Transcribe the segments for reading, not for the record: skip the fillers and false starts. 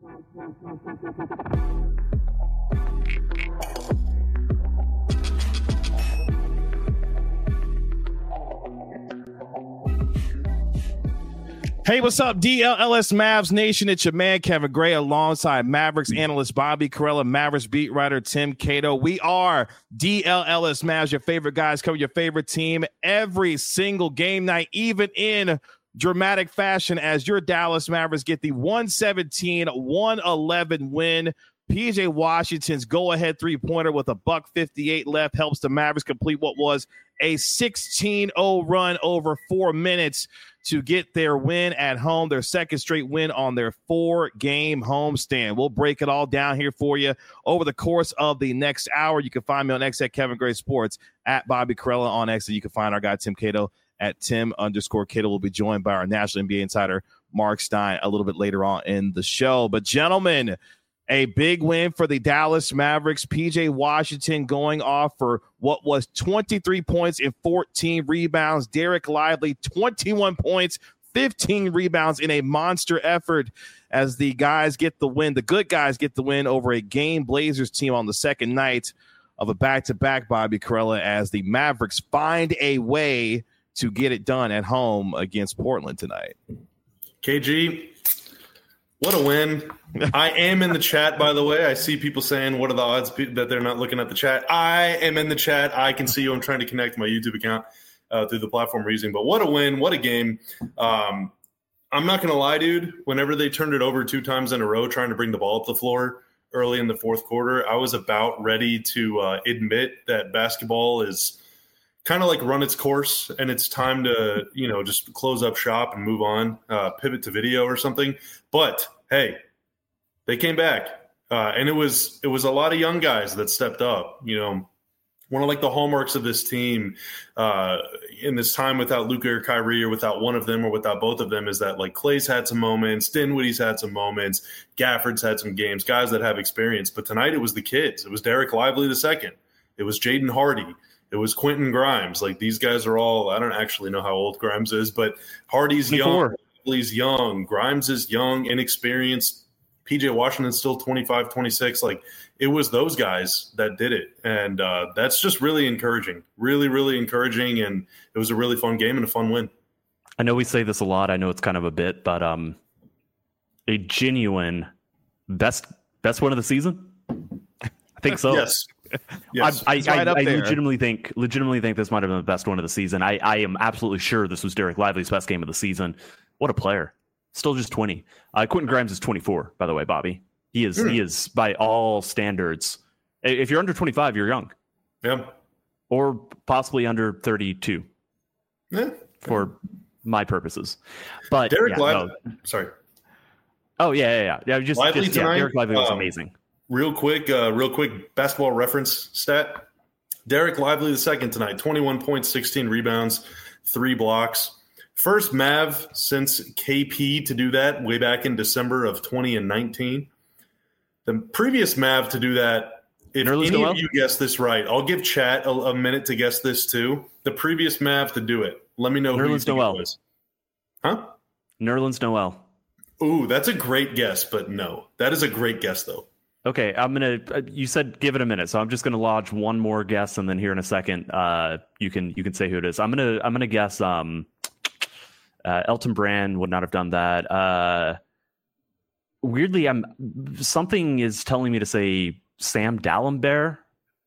Hey, what's up, DLLS Mavs Nation? It's your man, Kevin Gray, alongside Mavericks analyst Bobby Karalla, Mavericks beat writer Tim Cato. We are DLLS Mavs, your favorite guys, cover your favorite team every single game night, even in dramatic fashion, as your Dallas Mavericks get the 117-111 win. PJ Washington's go-ahead three-pointer with a $1:58 left helps the Mavericks complete what was a 16-0 run over 4 minutes to get their win at home, their second straight win on their 4-game homestand. We'll break it all down here for you over the course of the next hour. You can find me on X at Kevin Gray Sports, at Bobby Karalla on X, and you can find our guy Tim Cato at Tim_Cato. We'll be joined by our national NBA insider, Mark Stein, a little bit later on in the show. But gentlemen, a big win for the Dallas Mavericks. PJ Washington going off for what was 23 points and 14 rebounds. Derek Lively, 21 points, 15 rebounds in a monster effort as the guys get the win. The good guys get the win over a game Blazers team on the second night of a back-to-back, Bobby Karalla, as the Mavericks find a way to get it done at home against Portland tonight. KG, what a win. I am in the chat, by the way. I see people saying, what are the odds that they're not looking at the chat? I am in the chat. I can see you. I'm trying to connect my YouTube account through the platform we're using. But what a win. What a game. I'm not going to lie, dude. Whenever they turned it over 2 times in a row trying to bring the ball up the floor early in the fourth quarter, I was about ready to admit that basketball is kind of like run its course and it's time to, just close up shop and move on, pivot to video or something. But hey, they came back. And it was a lot of young guys that stepped up. One of the hallmarks of this team in this time without Luka or Kyrie, or without one of them or without both of them, is that Clay's had some moments, Dinwiddie's had some moments, Gafford's had some games, guys that have experience. But tonight it was the kids. It was Derek Lively II. It was Jaden Hardy. It was Quentin Grimes. These guys are all, I don't actually know how old Grimes is, but Hardy's young, Lively's young, Grimes is young, inexperienced. PJ Washington's still 25, 26. It was those guys that did it. And that's just really encouraging, really, really encouraging. And it was a really fun game and a fun win. I know we say this a lot. I know it's kind of a bit, but a genuine best win of the season. I think so. Yes. Yes. I legitimately think this might have been the best one of the season. I am absolutely sure this was Derek Lively's best game of the season. What a player. Still just 20. Quentin Grimes is 24, by the way, Bobby. He is by all standards. If you're under 25, you're young. Yeah. Or possibly under 32. Yeah. For my purposes. But Derek Lively. Sorry. Oh, yeah. Derek Lively was amazing. Real quick basketball reference stat. Derek Lively II tonight, 21 points, 16 rebounds, 3 blocks. First Mav since KP to do that way back in December of 2019. The previous Mav to do that, if any of you guess this right, I'll give chat a minute to guess this too. The previous Mav to do it. Let me know who you think it was. Huh? Nerlens Noel. Ooh, that's a great guess, but no. That is a great guess, though. Okay, I'm gonna. You said give it a minute, so I'm just gonna lodge one more guess, and then here in a second, you can say who it is. I'm gonna guess. Elton Brand would not have done that. Weirdly, something is telling me to say Sam Dalembert,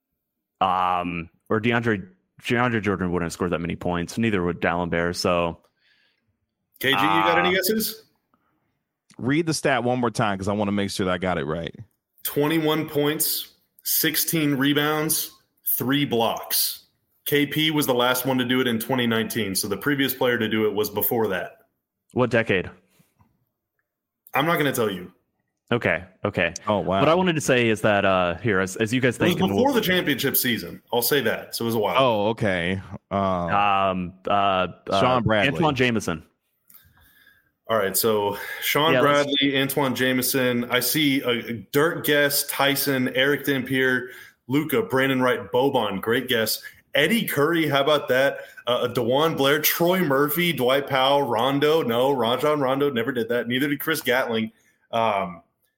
or DeAndre Jordan wouldn't have scored that many points. Neither would Dalembert. So, KG, you got any guesses? Read the stat one more time because I want to make sure that I got it right. 21 points, 16 rebounds, 3 blocks. KP was the last one to do it in 2019, so the previous player to do it was before that. What decade? I'm not going to tell you. Okay. Oh, wow. What I wanted to say is that here, as you guys think, it was before the championship season. I'll say that. So it was a while. Oh, okay. Sean Bradley, Antoine Jameson. All right, so Sean Bradley, Antoine Jameson. I see Dirk Guest, Tyson, Eric Dampier, Luka, Brandon Wright, Boban. Great guess. Eddie Curry, how about that? DeJuan Blair, Troy Murphy, Dwight Powell, Rondo. No, Rajon Rondo never did that. Neither did Chris Gatling.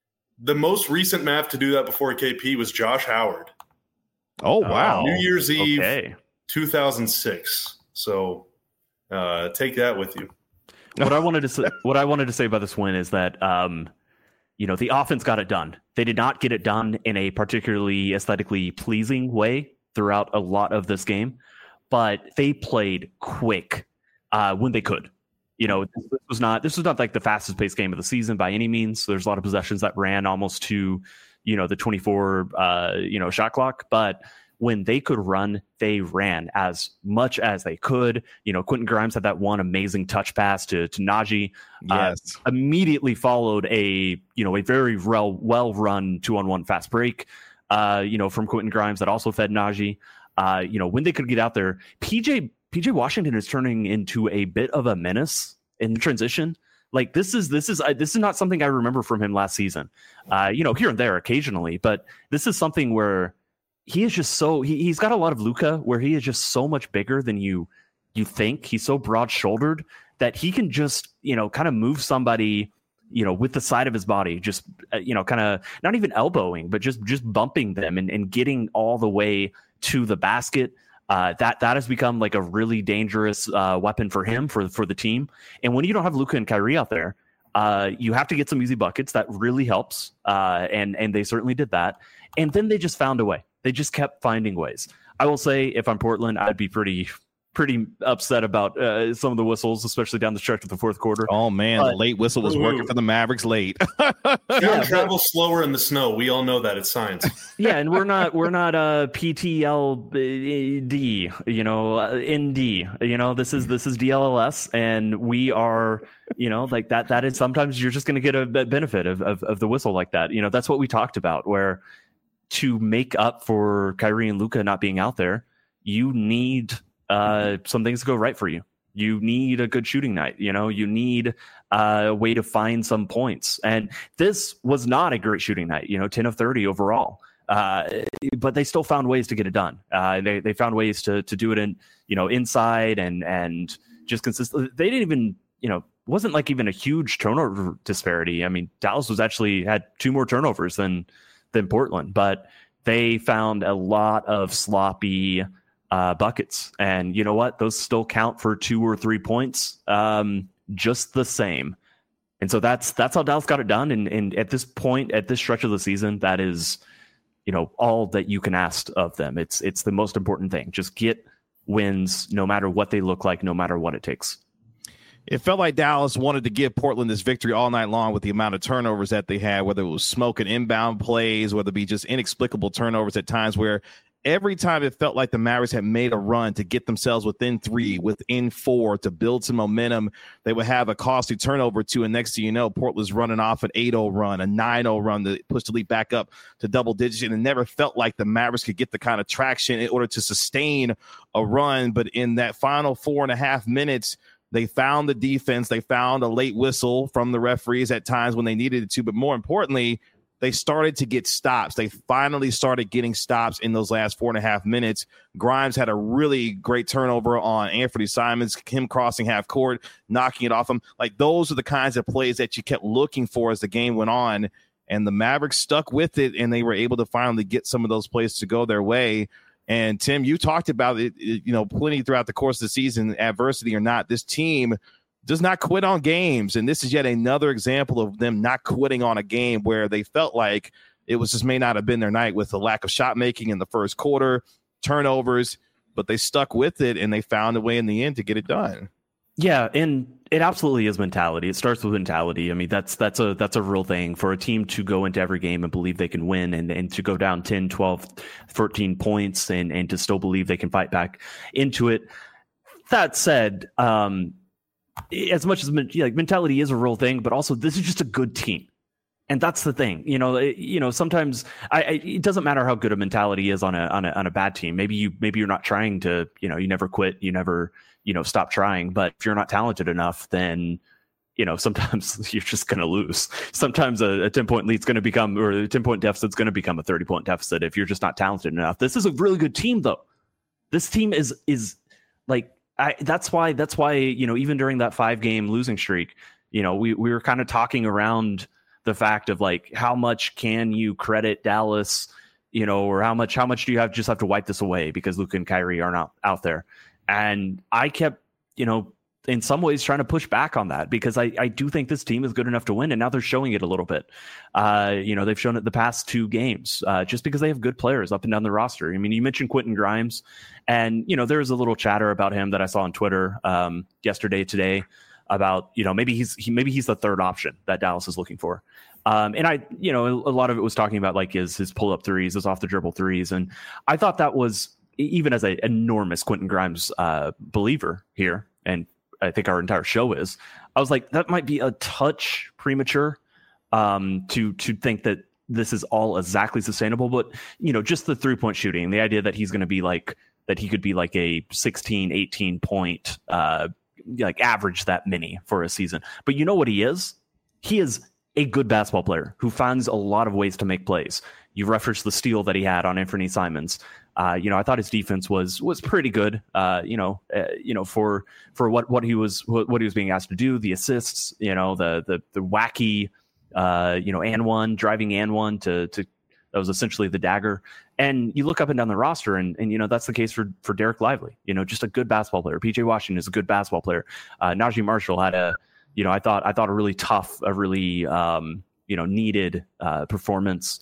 The most recent Mav to do that before KP was Josh Howard. Oh, wow. New Year's Eve, 2006. So take that with you. What I wanted to say about this win is that the offense got it done. They did not get it done in a particularly aesthetically pleasing way throughout a lot of this game, but they played quick when they could. This was not like the fastest paced game of the season by any means. There's a lot of possessions that ran almost to, the 24, shot clock. But when they could run, they ran as much as they could. Quentin Grimes had that one amazing touch pass to Najee. Yes. Immediately followed a very well run 2-on-1 fast break, from Quentin Grimes that also fed Najee. When they could get out there, PJ Washington is turning into a bit of a menace in transition. Like this is not something I remember from him last season. Here and there occasionally, but this is something where he is just he's got a lot of Luka where he is just so much bigger than you think. He's so broad shouldered that he can just, kind of move somebody, with the side of his body, just, kind of not even elbowing, but just bumping them and getting all the way to the basket. That has become like a really dangerous weapon for him, for the team. And when you don't have Luka and Kyrie out there, you have to get some easy buckets. That really helps. And they certainly did that. And then they just found a way. They just kept finding ways. I will say, if I'm Portland, I'd be pretty upset about some of the whistles, especially down the stretch of the fourth quarter. Oh man, the late whistle was working for the Mavericks late. Travel slower in the snow. We all know that. It's science. Yeah, and we're not PTLD, ND. This is DLLS, and we are, like that. That is sometimes you're just going to get a benefit of the whistle like that. That's what we talked about, where to make up for Kyrie and Luka not being out there, you need some things to go right for you. You need a good shooting night. You need a way to find some points. And this was not a great shooting night, 10 of 30 overall. But they still found ways to get it done. They found ways to do it in, inside and just consistent. They didn't even, wasn't like even a huge turnover disparity. I mean, Dallas had 2 more turnovers than Portland, but they found a lot of sloppy buckets. And you know what? Those still count for 2 or 3 points, just the same. And so that's how Dallas got it done. And at this point, at this stretch of the season, that is, all that you can ask of them. It's the most important thing. Just get wins, no matter what they look like, no matter what it takes. It felt like Dallas wanted to give Portland this victory all night long with the amount of turnovers that they had, whether it was smoking inbound plays, whether it be just inexplicable turnovers at times where every time it felt like the Mavericks had made a run to get themselves within 3, within 4, to build some momentum, they would have a costly turnover or 2. And next thing you know, Portland's running off an 8-0 run, a 9-0 run to push the lead back up to double digits. And it never felt like the Mavericks could get the kind of traction in order to sustain a run. But in that final 4.5 minutes, they found the defense. They found a late whistle from the referees at times when they needed it to. But more importantly, they started to get stops. They finally started getting stops in those last 4.5 minutes. Grimes had a really great turnover on Anthony Simons, him crossing half court, knocking it off him. Like, those are the kinds of plays that you kept looking for as the game went on. And the Mavericks stuck with it, and they were able to finally get some of those plays to go their way. And Tim, you talked about it, plenty throughout the course of the season, adversity or not. This team does not quit on games. And this is yet another example of them not quitting on a game where they felt like it was just may not have been their night with the lack of shot making in the first quarter, turnovers, but they stuck with it and they found a way in the end to get it done. Yeah, and it absolutely is mentality. It starts with mentality. I mean, that's a real thing for a team to go into every game and believe they can win and to go down 10, 12, 13 points and to still believe they can fight back into it. That said, as much as mentality is a real thing, but also this is just a good team. And that's the thing, sometimes it doesn't matter how good a mentality is on a bad team. Maybe you're not trying to, you never quit, you never, stop trying. But if you're not talented enough, then, sometimes you're just going to lose. Sometimes a 10-point lead's going to become, or a 10-point deficit's going to become a 30-point deficit if you're just not talented enough. This is a really good team, though. This team is like, that's why, even during that 5-game losing streak, we were kind of talking around the fact of like, how much can you credit Dallas, or how much do you have to wipe this away because Luka and Kyrie are not out there? And I kept, in some ways trying to push back on that because I do think this team is good enough to win, and now they're showing it a little bit. They've shown it the past 2 games just because they have good players up and down the roster. I mean, you mentioned Quentin Grimes, and there was a little chatter about him that I saw on Twitter today about maybe he's the third option that Dallas is looking for. And I, a lot of it was talking about like his pull up threes, his off the dribble threes, and I thought that was, even as an enormous Quentin Grimes believer here, and I think our entire show is, I was like, that might be a touch premature to think that this is all exactly sustainable. But, just the 3-point shooting, the idea that he's going to be like, that he could be like a 16, 18 point, like average that many for a season. But you know what he is? He is a good basketball player who finds a lot of ways to make plays. You referenced the steal that he had on Anthony Simons. I thought his defense was pretty good. For what he was being asked to do, the assists, the wacky, and one driving and one to that was essentially the dagger. And you look up and down the roster, and that's the case for Derek Lively. Just a good basketball player. PJ Washington is a good basketball player. Najee Marshall had I thought a really tough, a really needed performance.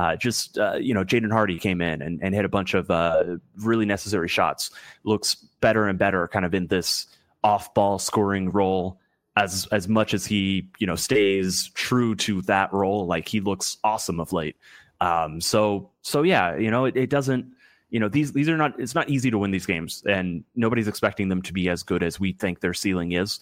Jaden Hardy came in and hit a bunch of really necessary shots. Looks better and better kind of in this off-ball scoring role as much as he, stays true to that role. Like, he looks awesome of late. So yeah, it doesn't, these are not, it's not easy to win these games, and nobody's expecting them to be as good as we think their ceiling is.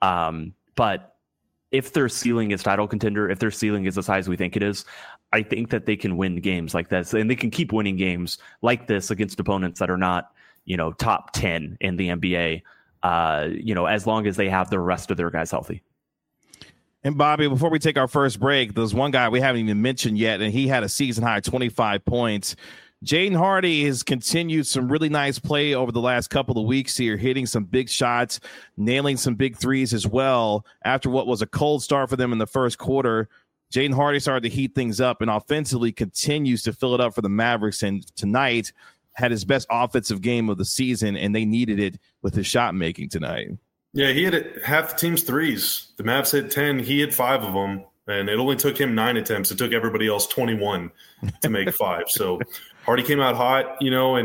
But if their ceiling is title contender, if their ceiling is as high as we think it is, I think that they can win games like this, and they can keep winning games like this against opponents that are not, top 10 in the NBA, as long as they have the rest of their guys healthy. And Bobby, before we take our first break, there's one guy we haven't even mentioned yet, and he had a season high 25 points. Jaden Hardy has continued some really nice play over the last couple of weeks here, hitting some big shots, nailing some big threes as well. After what was a cold start for them in the first quarter, Jaden Hardy started to heat things up and offensively continues to fill it up for the Mavericks. And tonight had his best offensive game of the season, and they needed it with his shot making tonight. Yeah, he hit half the team's threes. The Mavs hit 10. He hit 5 of them, and it only took him 9 attempts. It took everybody else 21 to make 5. So Hardy came out hot,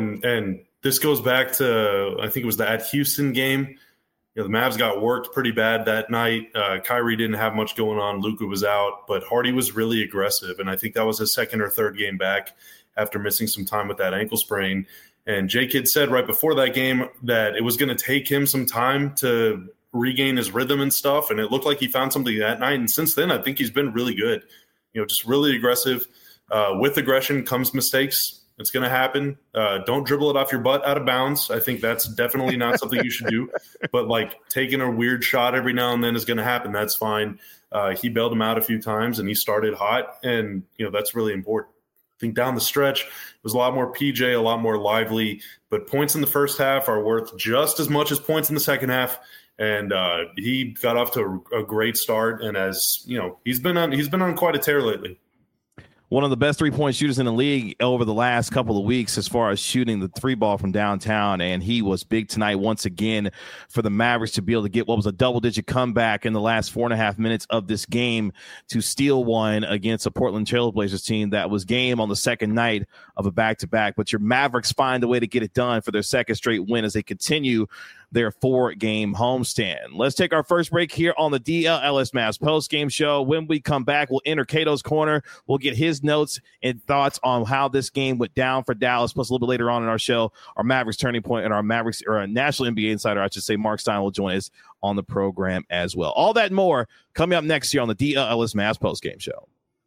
and this goes back to, I think it was at Houston game. The Mavs got worked pretty bad that night. Kyrie didn't have much going on. Luka was out, but Hardy was really aggressive, and I think that was his second or third game back after missing some time with that ankle sprain. And J-Kidd said right before that game that it was going to take him some time to regain his rhythm and stuff, and it looked like he found something that night. And since then, I think he's been really good. Just really aggressive. With aggression comes mistakes. It's going to happen. Don't dribble it off your butt out of bounds. I think that's definitely not something you should do. But, taking a weird shot every now and then is going to happen. That's fine. He bailed him out a few times, and he started hot, and, that's really important. I think down the stretch, it was a lot more PJ, a lot more Lively, but points in the first half are worth just as much as points in the second half. And he got off to a great start. And as he's been on quite a tear lately. One of the best 3-point shooters in the league over the last couple of weeks as far as shooting the 3 ball from downtown. And he was big tonight once again for the Mavericks to be able to get what was a double-digit comeback in the last 4.5 minutes of this game to steal one against a Portland Trailblazers team that was game on the second night of a back-to-back. But your Mavericks find a way to get it done for their second straight win as they continue their 4-game homestand. Let's take our first break here on the DLS Mavs post-game show. When we come back, we'll enter Cato's Corner. We'll get his notes and thoughts on how this game went down for Dallas. Plus, a little bit later on in our show, our Mavericks Turning Point and our Mavericks, or our National NBA Insider, I should say, Mark Stein will join us on the program as well. All that and more coming up next year on the DLS Mavs post-game show.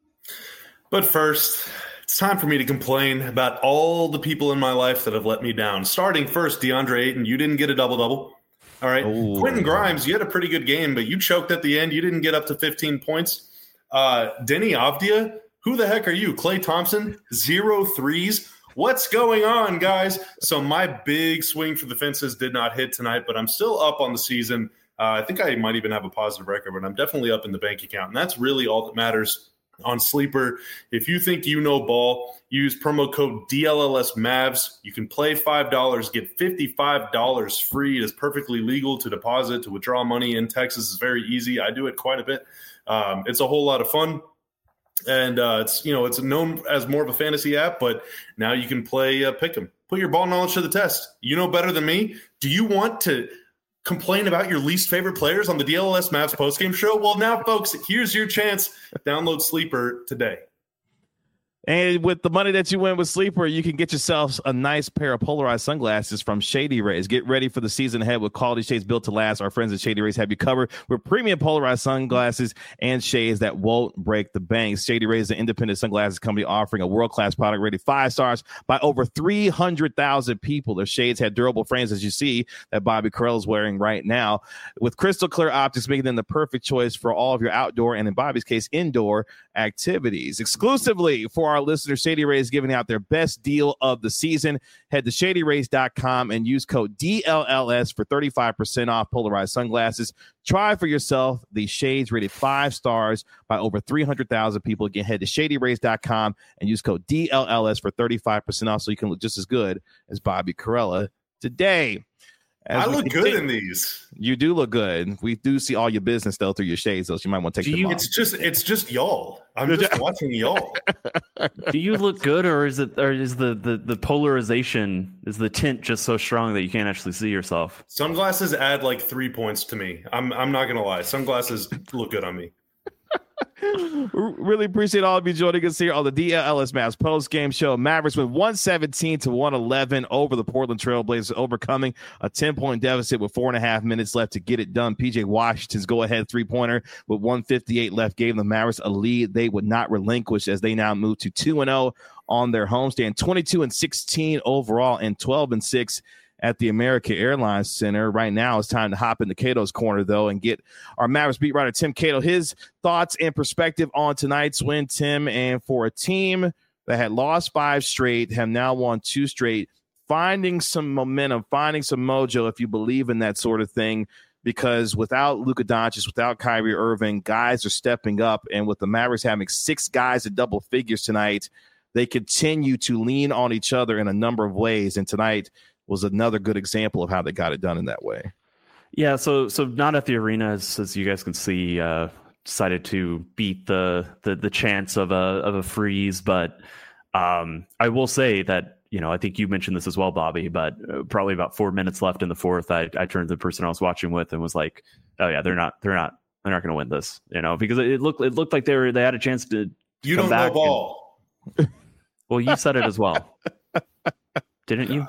But first, it's time for me to complain about all the people in my life that have let me down. Starting first, DeAndre Ayton, you didn't get a double-double. All right. Ooh. Quentin Grimes, you had a pretty good game, but you choked at the end. You didn't get up to 15 points. Denny Avdia, who the heck are you? Klay Thompson, 0 threes. What's going on, guys? So my big swing for the fences did not hit tonight, but I'm still up on the season. I think I might even have a positive record, but I'm definitely up in the bank account, and that's really all that matters. on Sleeper. If you think you know ball, use promo code DLLSMavs. You can play $5, get $55 free. It is perfectly legal to deposit, to withdraw money in Texas. It's very easy. I do it quite a bit. It's a whole lot of fun. And it's known as more of a fantasy app, but now you can play Pick'em. Put your ball knowledge to the test. You know better than me. Do you want to complain about your least favorite players on the DLS Mavs postgame show? Well, now, folks, here's your chance. Download Sleeper today. And with the money that you win with Sleeper, you can get yourself a nice pair of polarized sunglasses from Shady Rays. Get ready for the season ahead with quality shades built to last. Our friends at Shady Rays have you covered with premium polarized sunglasses and shades that won't break the bank. Shady Rays is an independent sunglasses company offering a world-class product rated 5 stars by over 300,000 people. Their shades have durable frames, as you see, that Bobby Karalla is wearing right now, with crystal clear optics, making them the perfect choice for all of your outdoor and, in Bobby's case, indoor activities. Exclusively for our listeners, Shady Rays is giving out their best deal of the season. Head to shadyrays.com and use code DLLS for 35% off polarized sunglasses. Try for yourself the shades rated 5 stars by over 300,000 people. Again, head to shadyrays.com and use code DLLS for 35% off so you can look just as good as Bobby Karalla today. I look good in these. You do look good. We do see all your business though through your shades, though. So you might want to take them off. It's just y'all. I'm just watching y'all. Do you look good, or is the polarization, is the tint just so strong that you can't actually see yourself? Sunglasses add like 3 points to me. I'm not gonna lie. Sunglasses look good on me. Really appreciate all of you joining us here on the DLS Mavs post game show. Mavericks win 117-111 over the Portland Trailblazers, overcoming a 10-point deficit with 4.5 minutes left to get it done. PJ Washington's go-ahead three-pointer with 1:58 left gave the Mavericks a lead they would not relinquish as they now move to 2-0 on their homestand, 22-16 overall, and 12-6 at the American Airlines Center. Right now, it's time to hop into Cato's corner, though, and get our Mavericks beat writer Tim Cato his thoughts and perspective on tonight's win, Tim. And for a team that had lost 5 straight, have now won 2 straight, finding some momentum, finding some mojo, if you believe in that sort of thing, because without Luka Doncic, without Kyrie Irving, guys are stepping up. And with the Mavericks having 6 guys at double figures tonight, they continue to lean on each other in a number of ways. And tonight was another good example of how they got it done in that way. Yeah, so not at the arena, as you guys can see, decided to beat the chance of a freeze, but I will say that, I think you mentioned this as well, Bobby, but probably about 4 minutes left in the fourth, I turned to the person I was watching with and was like, oh yeah, they're not going to win this, because it looked like they had a chance to. You don't know ball. Well, you said it as well, didn't you?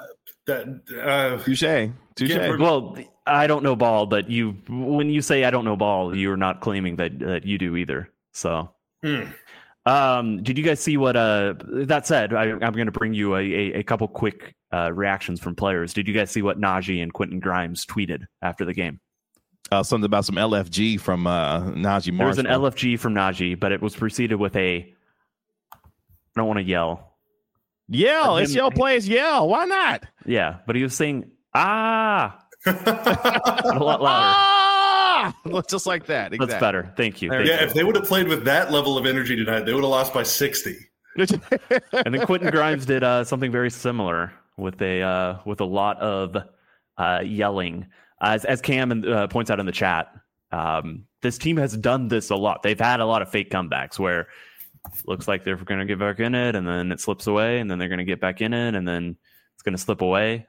Touche. Well, I don't know ball, but when you say I don't know ball, you're not claiming that you do either. So, did you guys see what? That said, I'm going to bring you a couple quick reactions from players. Did you guys see what Najee and Quentin Grimes tweeted after the game? Something about some LFG from Najee Marshall. There was an LFG from Najee, but it was preceded with I don't want to yell. Yell. It's your place. Yell. Why not? Yeah, but he was saying, a lot louder. Ah! Just like that. Exactly. That's better. Thank you. If they would have played with that level of energy tonight, they would have lost by 60. And then Quentin Grimes did something very similar with a lot of yelling. As Cam points out in the chat, this team has done this a lot. They've had a lot of fake comebacks where looks like they're going to get back in it, and then it slips away, and then they're going to get back in it, and then it's going to slip away.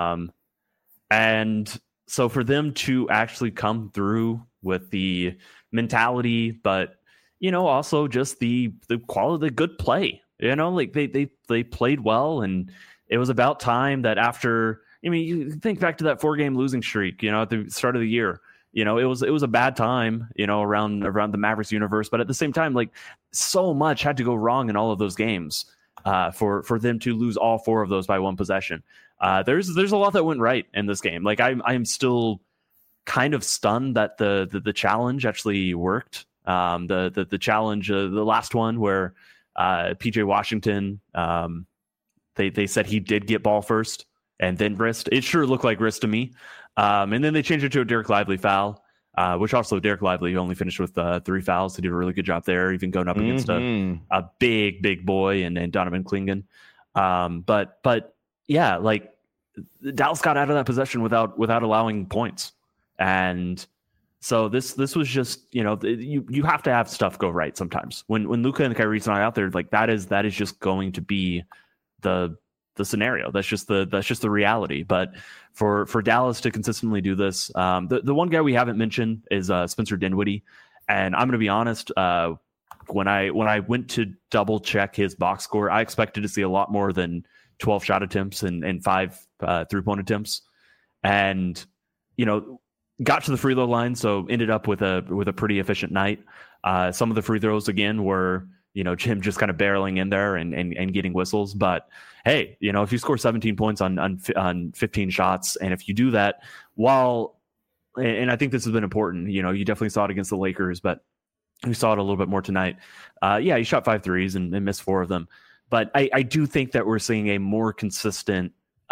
And so for them to actually come through with the mentality, but also just the quality, the good play. Like they played well, and it was about time that after. You think back to that 4-game losing streak. At the start of the year. It was a bad time, around the Mavericks universe. But at the same time, like so much had to go wrong in all of those games for them to lose all 4 of those by 1 possession. There's a lot that went right in this game. Like I'm still kind of stunned that the challenge actually worked. The challenge, the last one where PJ Washington, they said he did get ball first and then wrist. It sure looked like wrist to me. And then they changed it to a Derek Lively foul. which also Derek Lively only finished with 3 fouls. He did a really good job there, even going up against a big boy and Donovan Clingan. But yeah, like Dallas got out of that possession without allowing points. And so this was just, you have to have stuff go right sometimes. When Luka and Kyrie's not out there, like that is just going to be the scenario. That's just the reality. But for Dallas to consistently do this, the one guy we haven't mentioned is Spencer Dinwiddie. And I'm going to be honest, when I went to double check his box score, I expected to see a lot more than 12 shot attempts and 5 3-point attempts, and got to the free throw line, so ended up with a pretty efficient night. Some of the free throws again were Jim just kind of barreling in there and getting whistles. But hey, if you score 17 points on 15 shots, and if you do that and I think this has been important, you definitely saw it against the Lakers, but we saw it a little bit more tonight. He shot 5 threes and missed 4 of them. But I do think that we're seeing a more consistent,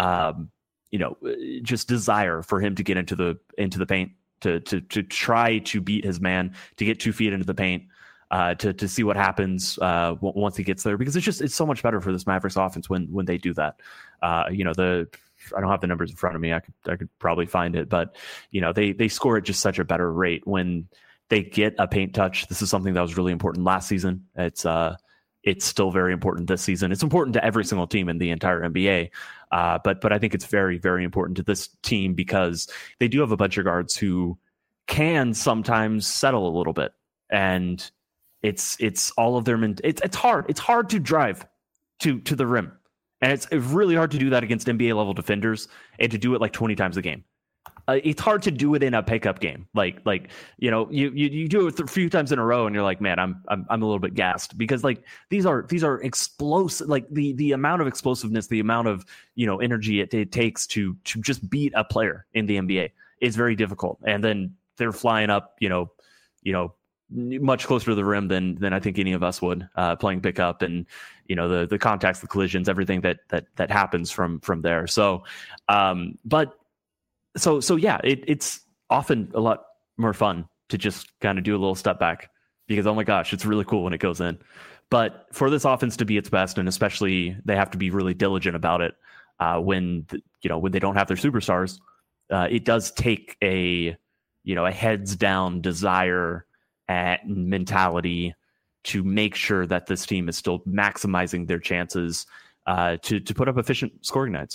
just desire for him to get into the paint, to try to beat his man, to get 2 feet into the paint, to see what happens once he gets there, because it's so much better for this Mavericks offense when they do that. I don't have the numbers in front of me. I could probably find it, but they score at just such a better rate when they get a paint touch. This is something that was really important last season. It's still very important this season. It's important to every single team in the entire NBA. But I think it's very, very important to this team because they do have a bunch of guards who can sometimes settle a little bit. And it's all of their it's hard. It's hard to drive to the rim. And it's really hard to do that against NBA level defenders and to do it like 20 times a game. It's hard to do it in a pickup game. Like you do it a few times in a row and you're like, man, I'm a little bit gassed, because like these are explosive. Like the amount of explosiveness, the amount of energy it takes to just beat a player in the NBA is very difficult. And then they're flying up, much closer to the rim than I think any of us would, playing pickup, and the contacts, the collisions, everything that happens from there. So, So yeah, it's often a lot more fun to just kind of do a little step back, because, oh my gosh, it's really cool when it goes in. But for this offense to be its best, and especially they have to be really diligent about it when they don't have their superstars, it does take a heads down desire and mentality to make sure that this team is still maximizing their chances to put up efficient scoring nights.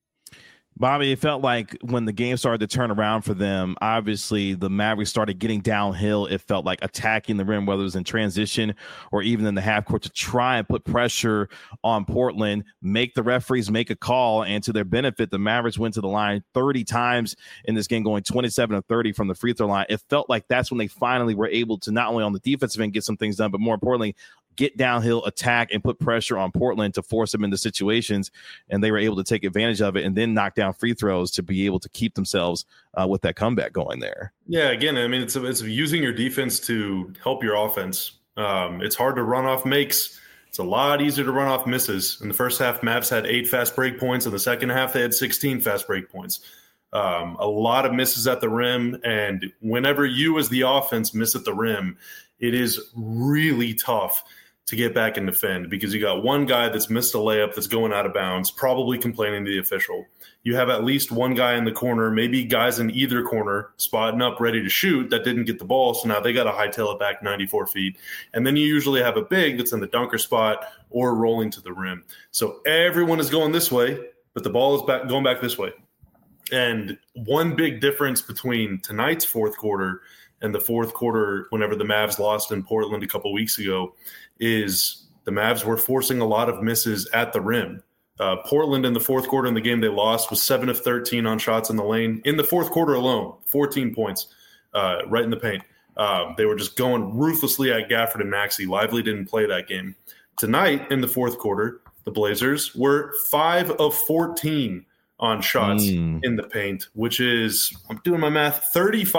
Bobby, it felt like when the game started to turn around for them, obviously the Mavericks started getting downhill. It felt like attacking the rim, whether it was in transition or even in the half court, to try and put pressure on Portland, make the referees make a call. And to their benefit, the Mavericks went to the line 30 times in this game, going 27 of 30 from the free throw line. It felt like that's when they finally were able to not only on the defensive end get some things done, but more importantly, get downhill, attack, and put pressure on Portland to force them into situations. And they were able to take advantage of it and then knock down free throws to be able to keep themselves with that comeback going there. Yeah, again, I mean, it's using your defense to help your offense. It's hard to run off makes. It's a lot easier to run off misses. In the first half, Mavs had 8 fast break points. In the second half, they had 16 fast break points. A lot of misses at the rim. And whenever you as the offense miss at the rim, it is really tough to get back and defend, because you got one guy that's missed a layup that's going out of bounds, probably complaining to the official. You have at least one guy in the corner, maybe guys in either corner, spotting up ready to shoot that didn't get the ball, so now they got to hightail it back 94 feet. And then you usually have a big that's in the dunker spot or rolling to the rim. So everyone is going this way, but the ball is going back this way. And one big difference between tonight's fourth quarter and the fourth quarter whenever the Mavs lost in Portland a couple weeks ago is the Mavs were forcing a lot of misses at the rim. Portland in the fourth quarter in the game they lost was 7 of 13 on shots in the lane. In the fourth quarter alone, 14 points right in the paint. They were just going ruthlessly at Gafford and Maxey. Lively didn't play that game. Tonight in the fourth quarter, the Blazers were 5 of 14 on shots in the paint, which is, I'm doing my math,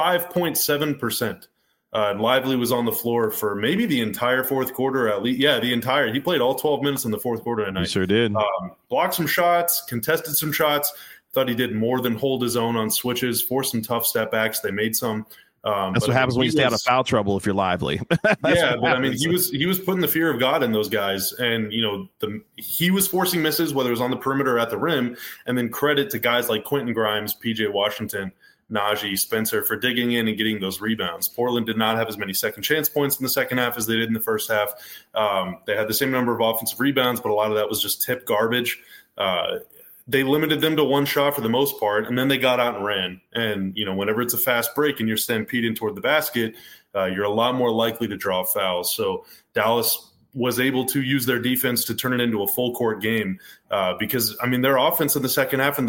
35.7%. And Lively was on the floor for maybe the entire fourth quarter, at least. Yeah, the entire. He played all 12 minutes in the fourth quarter tonight. He sure did. Blocked some shots, contested some shots. Thought he did more than hold his own on switches, forced some tough step backs. They made some. That's what happens when you stay out of foul trouble if you're lively. Yeah, but I mean, he was putting the fear of God in those guys, and he was forcing misses, whether it was on the perimeter or at the rim, and then credit to guys like Quentin Grimes, PJ Washington, Najee, Spencer for digging in and getting those rebounds. Portland did not have as many second chance points in the second half as they did in the first half. They had the same number of offensive rebounds, but a lot of that was just tip garbage. They limited them to one shot for the most part, and then they got out and ran. And, whenever it's a fast break and you're stampeding toward the basket, you're a lot more likely to draw fouls. So Dallas was able to use their defense to turn it into a full court game because, their offense in the second half and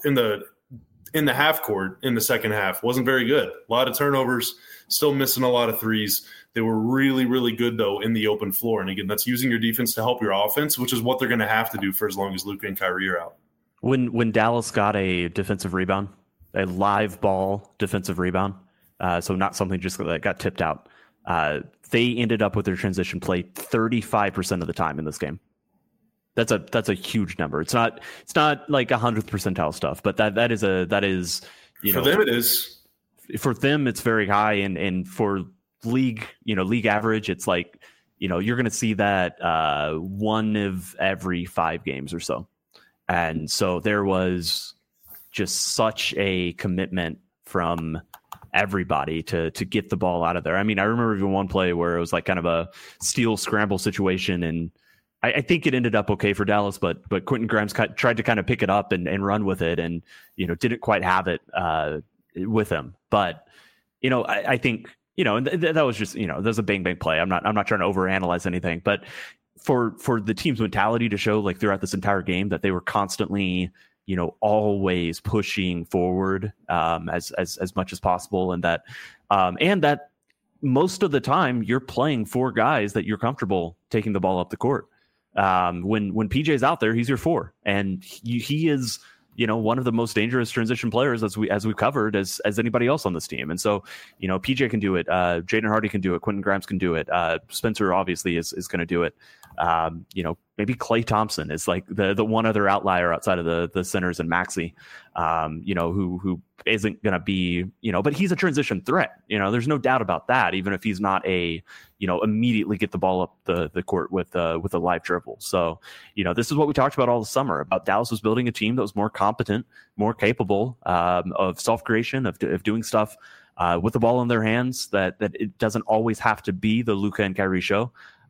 in the half court in the second half wasn't very good. A lot of turnovers, still missing a lot of threes. They were really, really good, though, in the open floor. And, again, that's using your defense to help your offense, which is what they're going to have to do for as long as Luka and Kyrie are out. When Dallas got a defensive rebound, a live ball defensive rebound, so not something just that got tipped out, they ended up with their transition play 35% of the time in this game. That's a huge number. It's not like 100th percentile stuff, but that is for them it is. For them it's very high, and for league average it's like you're going to see that one of every 5 games or so. And so there was just such a commitment from everybody to get the ball out of there. I remember even one play where it was like kind of a steal scramble situation, and I think it ended up okay for Dallas, but Quentin Grimes tried to kind of pick it up and run with it, and didn't quite have it with him. But I think and that was just there's a bang play. I'm not trying to overanalyze anything, but for the team's mentality to show like throughout this entire game that they were constantly, always pushing forward as much as possible, and that most of the time you're playing 4 guys that you're comfortable taking the ball up the court. When PJ's out there, he's your 4, and he is one of the most dangerous transition players as we've covered as anybody else on this team. And so, PJ can do it. Jaden Hardy can do it. Quentin Grimes can do it. Spencer obviously is going to do it. Maybe Klay Thompson is like the one other outlier outside of the centers and Maxey, who isn't going to be, but he's a transition threat. There's no doubt about that, even if he's not a, immediately get the ball up the court with a live dribble. So, this is what we talked about all the summer about Dallas was building a team that was more competent, more capable of self-creation, of doing stuff with the ball in their hands, that it doesn't always have to be the Luka and Kyrie show.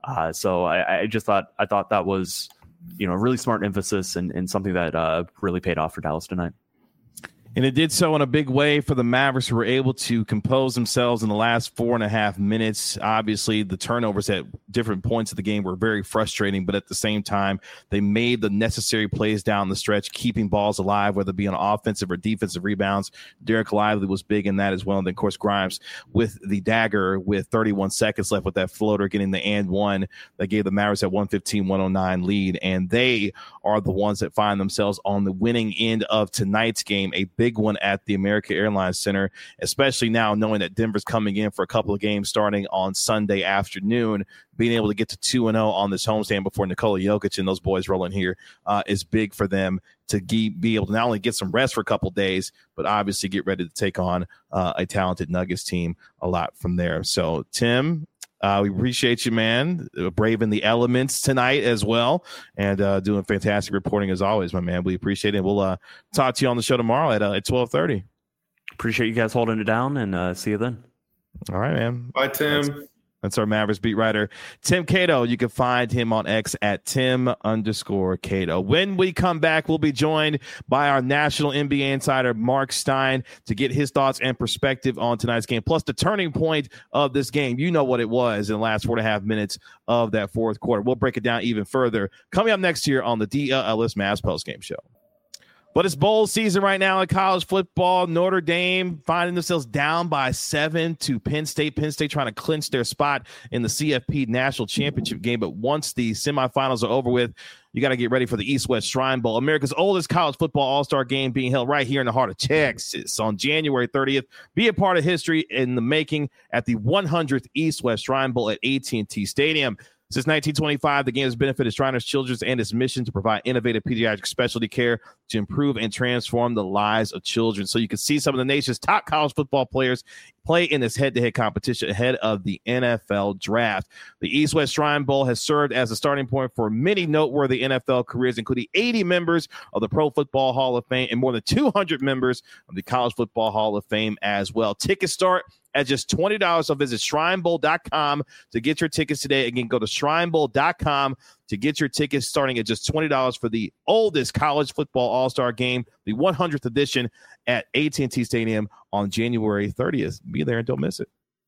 So I thought that was, a really smart emphasis and something that really paid off for Dallas tonight. And it did so in a big way for the Mavericks, who were able to compose themselves in the last 4.5 minutes. Obviously, the turnovers at different points of the game were very frustrating, but at the same time, they made the necessary plays down the stretch, keeping balls alive, whether it be on offensive or defensive rebounds. Derek Lively was big in that as well. And then, of course, Grimes with the dagger with 31 seconds left with that floater, getting the and one that gave the Mavericks that 115-109 lead. And they are the ones that find themselves on the winning end of tonight's game, a big one at the American Airlines Center, especially now knowing that Denver's coming in for a couple of games starting on Sunday afternoon. Being able to get to 2-0 on this homestand before Nikola Jokic and those boys rolling here is big for them to be able to not only get some rest for a couple of days, but obviously get ready to take on a talented Nuggets team a lot from there. So, Tim, we appreciate you, man, braving the elements tonight as well, and doing fantastic reporting as always, my man. We appreciate it. We'll talk to you on the show tomorrow at 12:30. Appreciate you guys holding it down, and see you then. All right, man. Bye, Tim. That's our Mavericks beat writer, Tim Cato. You can find him on X at Tim_Cato. When we come back, we'll be joined by our national NBA insider, Mark Stein, to get his thoughts and perspective on tonight's game, plus the turning point of this game. You know what it was in the last 4.5 minutes of that fourth quarter. We'll break it down even further coming up next year on the DLS Mavs postgame show. But it's bowl season right now in college football. Notre Dame finding themselves down by 7 to Penn State. Penn State trying to clinch their spot in the CFP National Championship game. But once the semifinals are over with, you got to get ready for the East-West Shrine Bowl, America's oldest college football all-star game, being held right here in the heart of Texas on January 30th. Be a part of history in the making at the 100th East-West Shrine Bowl at AT&T Stadium. Since 1925, the game has benefited Shriners Children's and its mission to provide innovative pediatric specialty care to improve and transform the lives of children. So you can see some of the nation's top college football players play in this head-to-head competition ahead of the NFL draft. The East-West Shrine Bowl has served as a starting point for many noteworthy NFL careers, including 80 members of the Pro Football Hall of Fame and more than 200 members of the College Football Hall of Fame as well. Tickets start at just $20. So visit shrinebowl.com to get your tickets today. Again, go to shrinebowl.com to get your tickets starting at just $20 for the oldest college football all-star game, the 100th edition at AT&T Stadium on January 30th. Be there and don't miss it.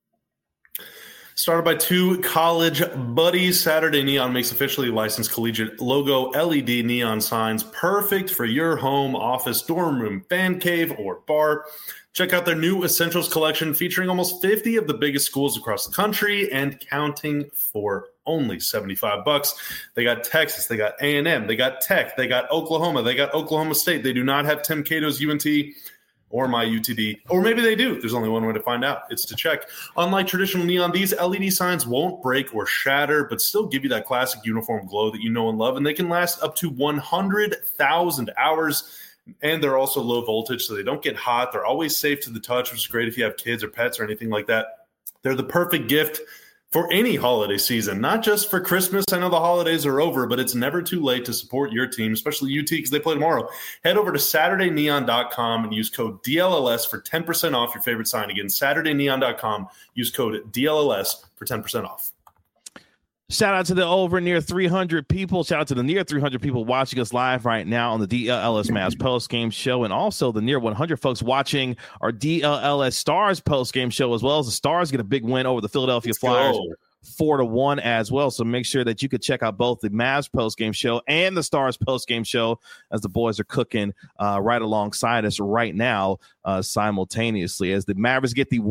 Started by two college buddies, Saturday Neon makes officially licensed collegiate logo LED neon signs perfect for your home, office, dorm room, fan cave, or bar. Check out their new Essentials collection featuring almost 50 of the biggest schools across the country and counting for only $75. They got Texas, they got A&M, they got Tech, they got Oklahoma, they got Oklahoma State. They do not have Tim Cato's UNT or my UTD, or maybe they do. There's only one way to find out. It's to check. Unlike traditional neon, these LED signs won't break or shatter, but still give you that classic uniform glow that you know and love, and they can last up to 100,000 hours. And they're also low voltage, so they don't get hot. They're always safe to the touch, which is great if you have kids or pets or anything like that. They're the perfect gift for any holiday season, not just for Christmas. I know the holidays are over, but it's never too late to support your team, especially UT, because they play tomorrow. Head over to SaturdayNeon.com and use code DLLS for 10% off your favorite sign. Again, SaturdayNeon.com. Use code DLLS for 10% off. Shout out to the over near 300 people. Shout out to the near 300 people watching us live right now on the DLLS Mavs post-game show, and also the near 100 folks watching our DLLS Stars post-game show, as well as the Stars get a big win over the Philadelphia Flyers. 4-1 as well. So make sure that you could check out both the Mavs post-game show and the Stars post-game show as the boys are cooking right alongside us right now simultaneously as the Mavericks get the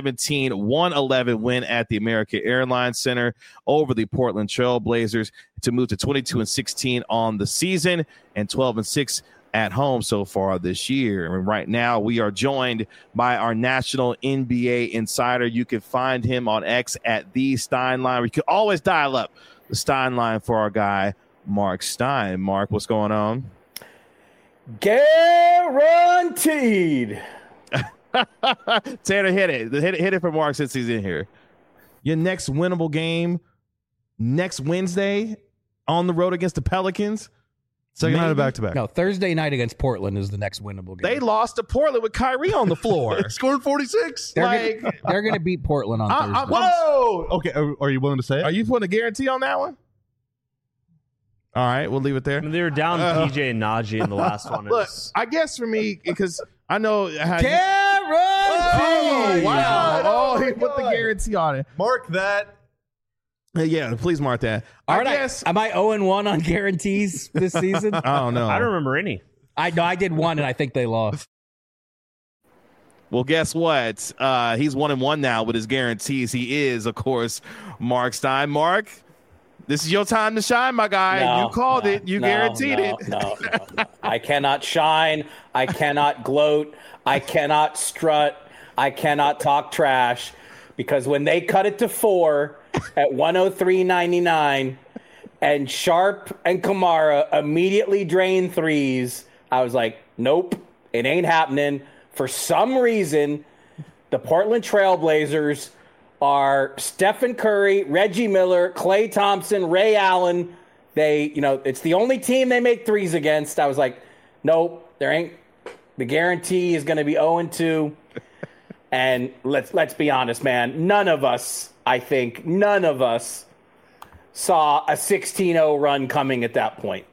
117-111 win at the American Airlines Center over the Portland Trail Blazers to move to 22-16 on the season and 12-6 at home so far this year. And right now we are joined by our national NBA insider. You can find him on X at the Steinline. We can always dial up the Steinline for our guy, Mark Stein. Mark, what's going on? Guaranteed. Tanner, hit it for Mark since he's in here. Your next winnable game next Wednesday on the road against the Pelicans. Second night of back-to-back. No, Thursday night against Portland is the next winnable game. They lost to Portland with Kyrie on the floor. Scored 46. They're going to beat Portland on Thursday. Whoa! Okay, are you willing to say it? Are you putting a guarantee on that one? All right, we'll leave it there. I mean, they were down PJ and Najee in the last one. Look, I guess for me, because I know how Guarantee! Oh, wow. Oh, he put the guarantee on it. Mark that. Yeah, please mark that. Am I 0-1 on guarantees this season? I don't know. I don't remember any. I did one, and I think they lost. Well, guess what? He's 1-1 now with his guarantees. He is, of course, Mark Stein. Mark, this is your time to shine, my guy. You called it. You guaranteed it. No. I cannot shine. I cannot gloat. I cannot strut. I cannot talk trash. Because when they cut it to 4 at 103.99 and Sharp and Kamara immediately drained threes, I was like, nope, it ain't happening. For some reason, the Portland Trailblazers are Stephen Curry, Reggie Miller, Klay Thompson, Ray Allen. It's the only team they make threes against. I was like, nope, there ain't. The guarantee is going to be 0-2. And let's be honest, man. None of us saw a 16-0 run coming at that point.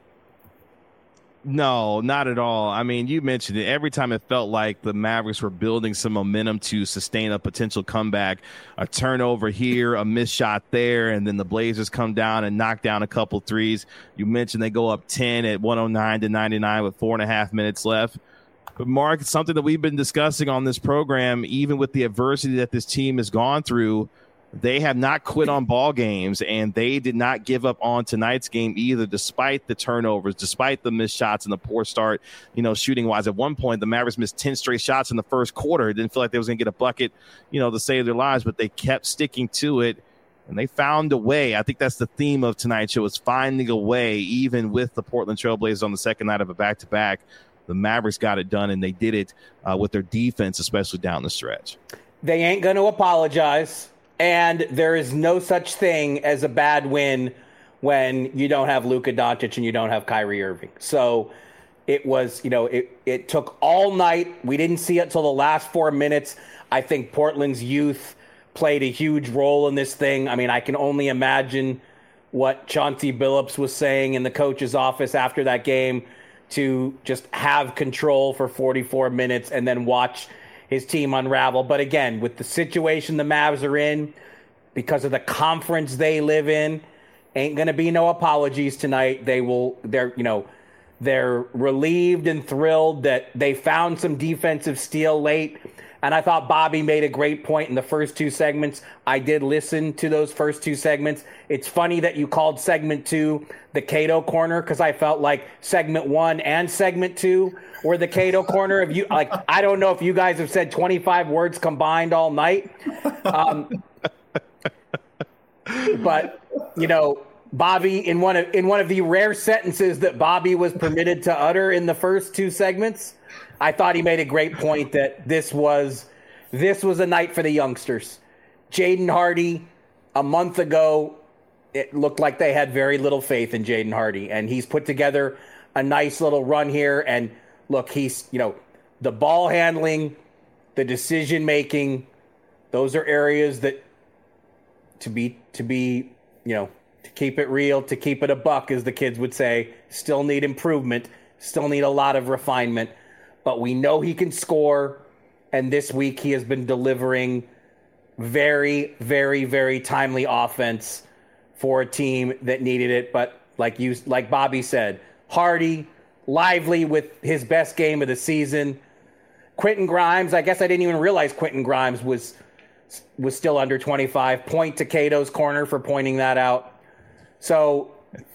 No, not at all. I mean, you mentioned it. Every time it felt like the Mavericks were building some momentum to sustain a potential comeback, a turnover here, a missed shot there, and then the Blazers come down and knock down a couple threes. You mentioned they go up 10 at 109-99 with 4.5 minutes left. But, Mark, it's something that we've been discussing on this program, even with the adversity that this team has gone through. They have not quit on ball games, and they did not give up on tonight's game either, despite the turnovers, despite the missed shots and the poor start, shooting-wise. At one point, the Mavericks missed 10 straight shots in the first quarter. It didn't feel like they was going to get a bucket, to save their lives, but they kept sticking to it. And they found a way. I think that's the theme of tonight's show, is finding a way, even with the Portland Trailblazers on the second night of a back-to-back. The Mavericks got it done, and they did it with their defense, especially down the stretch. They ain't going to apologize, and there is no such thing as a bad win when you don't have Luka Doncic and you don't have Kyrie Irving. So it was, it took all night. We didn't see it until the last 4 minutes. I think Portland's youth played a huge role in this thing. I mean, I can only imagine what Chauncey Billups was saying in the coach's office after that game, to just have control for 44 minutes and then watch his team unravel. But again, with the situation the Mavs are in, because of the conference they live in, ain't going to be no apologies tonight. They're relieved and thrilled that they found some defensive steel late. And I thought Bobby made a great point in the first two segments. I did listen to those first two segments. It's funny that you called segment 2 the Cato Corner, because I felt like segment 1 and segment 2 were the Cato Corner. If you I don't know if you guys have said 25 words combined all night. But Bobby, in one of the rare sentences that Bobby was permitted to utter in the first two segments, I thought he made a great point that this was a night for the youngsters. Jaden Hardy, a month ago, it looked like they had very little faith in Jaden Hardy, and he's put together a nice little run here. And look, he's, the ball handling, the decision making, those are areas that to keep it real, to keep it a buck, as the kids would say, still need improvement, still need a lot of refinement. But we know he can score, and this week he has been delivering very, very, very timely offense for a team that needed it. But like Bobby said, Hardy, lively with his best game of the season. Quentin Grimes, I guess I didn't even realize Quentin Grimes was still under 25. Point to Cato's corner for pointing that out. So,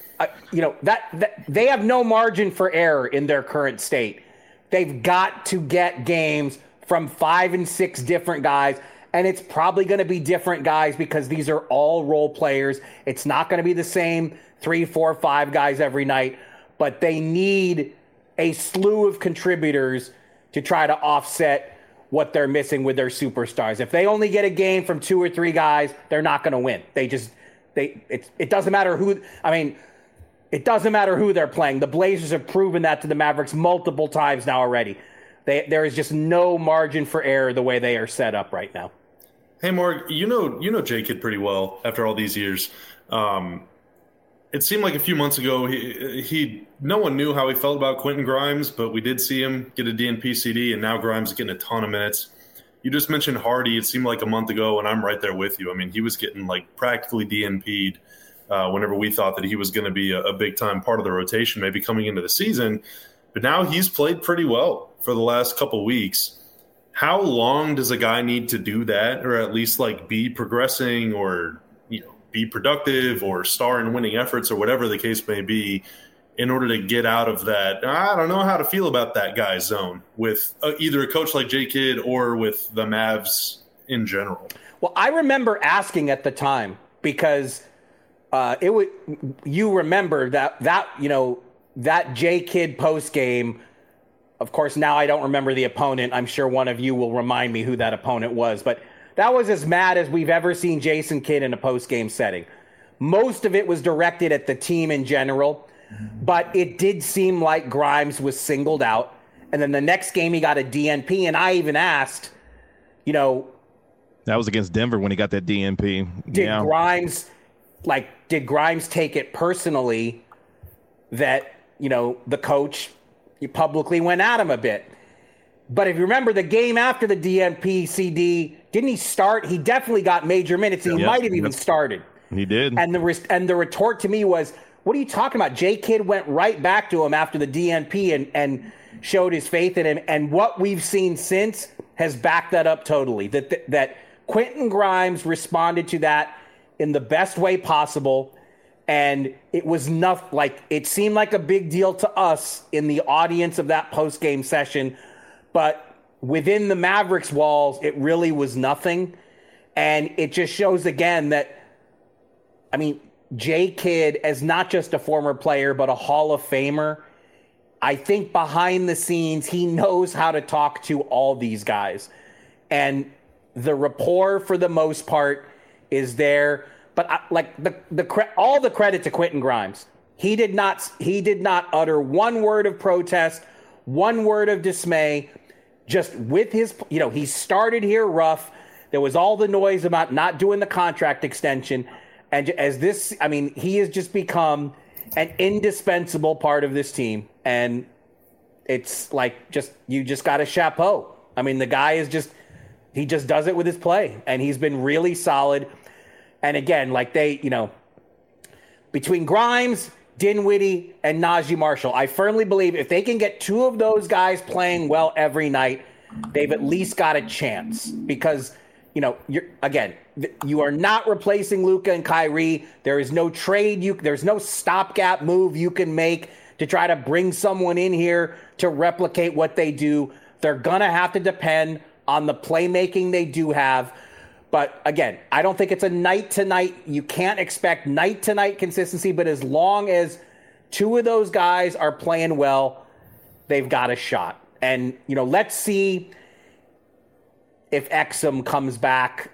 that they have no margin for error in their current state. They've got to get games from 5 and 6 different guys, and it's probably going to be different guys because these are all role players. It's not going to be the same 3, 4, 5 guys every night, but they need a slew of contributors to try to offset what they're missing with their superstars. If they only get a game from 2 or 3 guys, they're not going to win. It doesn't matter who. I mean, it doesn't matter who they're playing. The Blazers have proven that to the Mavericks multiple times now already. There is just no margin for error the way they are set up right now. Hey, Morg, you know J Kidd pretty well after all these years. It seemed like a few months ago no one knew how he felt about Quentin Grimes, but we did see him get a DNP CD, and now Grimes is getting a ton of minutes. You just mentioned Hardy. It seemed like a month ago, and I'm right there with you. I mean, he was getting practically DNP'd whenever we thought that he was going to be a big-time part of the rotation, maybe coming into the season. But now he's played pretty well for the last couple weeks. How long does a guy need to do that, or at least be progressing, or be productive, or star in winning efforts, or whatever the case may be, in order to get out of that, I don't know how to feel about that guy's zone with either a coach like J Kidd or with the Mavs in general? Well, I remember asking at the time because you remember that J Kidd post game. Of course, now I don't remember the opponent. I'm sure one of you will remind me who that opponent was, but that was as mad as we've ever seen Jason Kidd in a post game setting. Most of it was directed at the team in general. But it did seem like Grimes was singled out. And then the next game he got a DNP. And I even asked, that was against Denver when he got that DNP. Did Grimes take it personally that, the coach publicly went at him a bit? But if you remember the game after the DNP CD, didn't he start? He definitely got major minutes. And he might have even started. He did. And the retort to me was, what are you talking about? J Kidd went right back to him after the DNP and showed his faith in him. And what we've seen since has backed that up totally. That Quentin Grimes responded to that in the best way possible. And it was it seemed like a big deal to us in the audience of that post-game session. But within the Mavericks walls, it really was nothing. And it just shows again that I mean, Jay Kidd, as not just a former player, but a Hall of Famer, I think behind the scenes, he knows how to talk to all these guys. And the rapport, for the most part, is there. But all the credit to Quentin Grimes. He did not utter one word of protest, one word of dismay. Just with his, he started here rough. There was all the noise about not doing the contract extension. And he has just become an indispensable part of this team. And it's you just got to chapeau. I mean, the guy he just does it with his play. And he's been really solid. And again, between Grimes, Dinwiddie, and Najee Marshall, I firmly believe if they can get two of those guys playing well every night, they've at least got a chance. Because, you are not replacing Luka and Kyrie. There is no trade. There's no stopgap move you can make to try to bring someone in here to replicate what they do. They're going to have to depend on the playmaking they do have. But again, I don't think it's a night-to-night. You can't expect night-to-night consistency, but as long as two of those guys are playing well, they've got a shot. And, let's see if Exum comes back.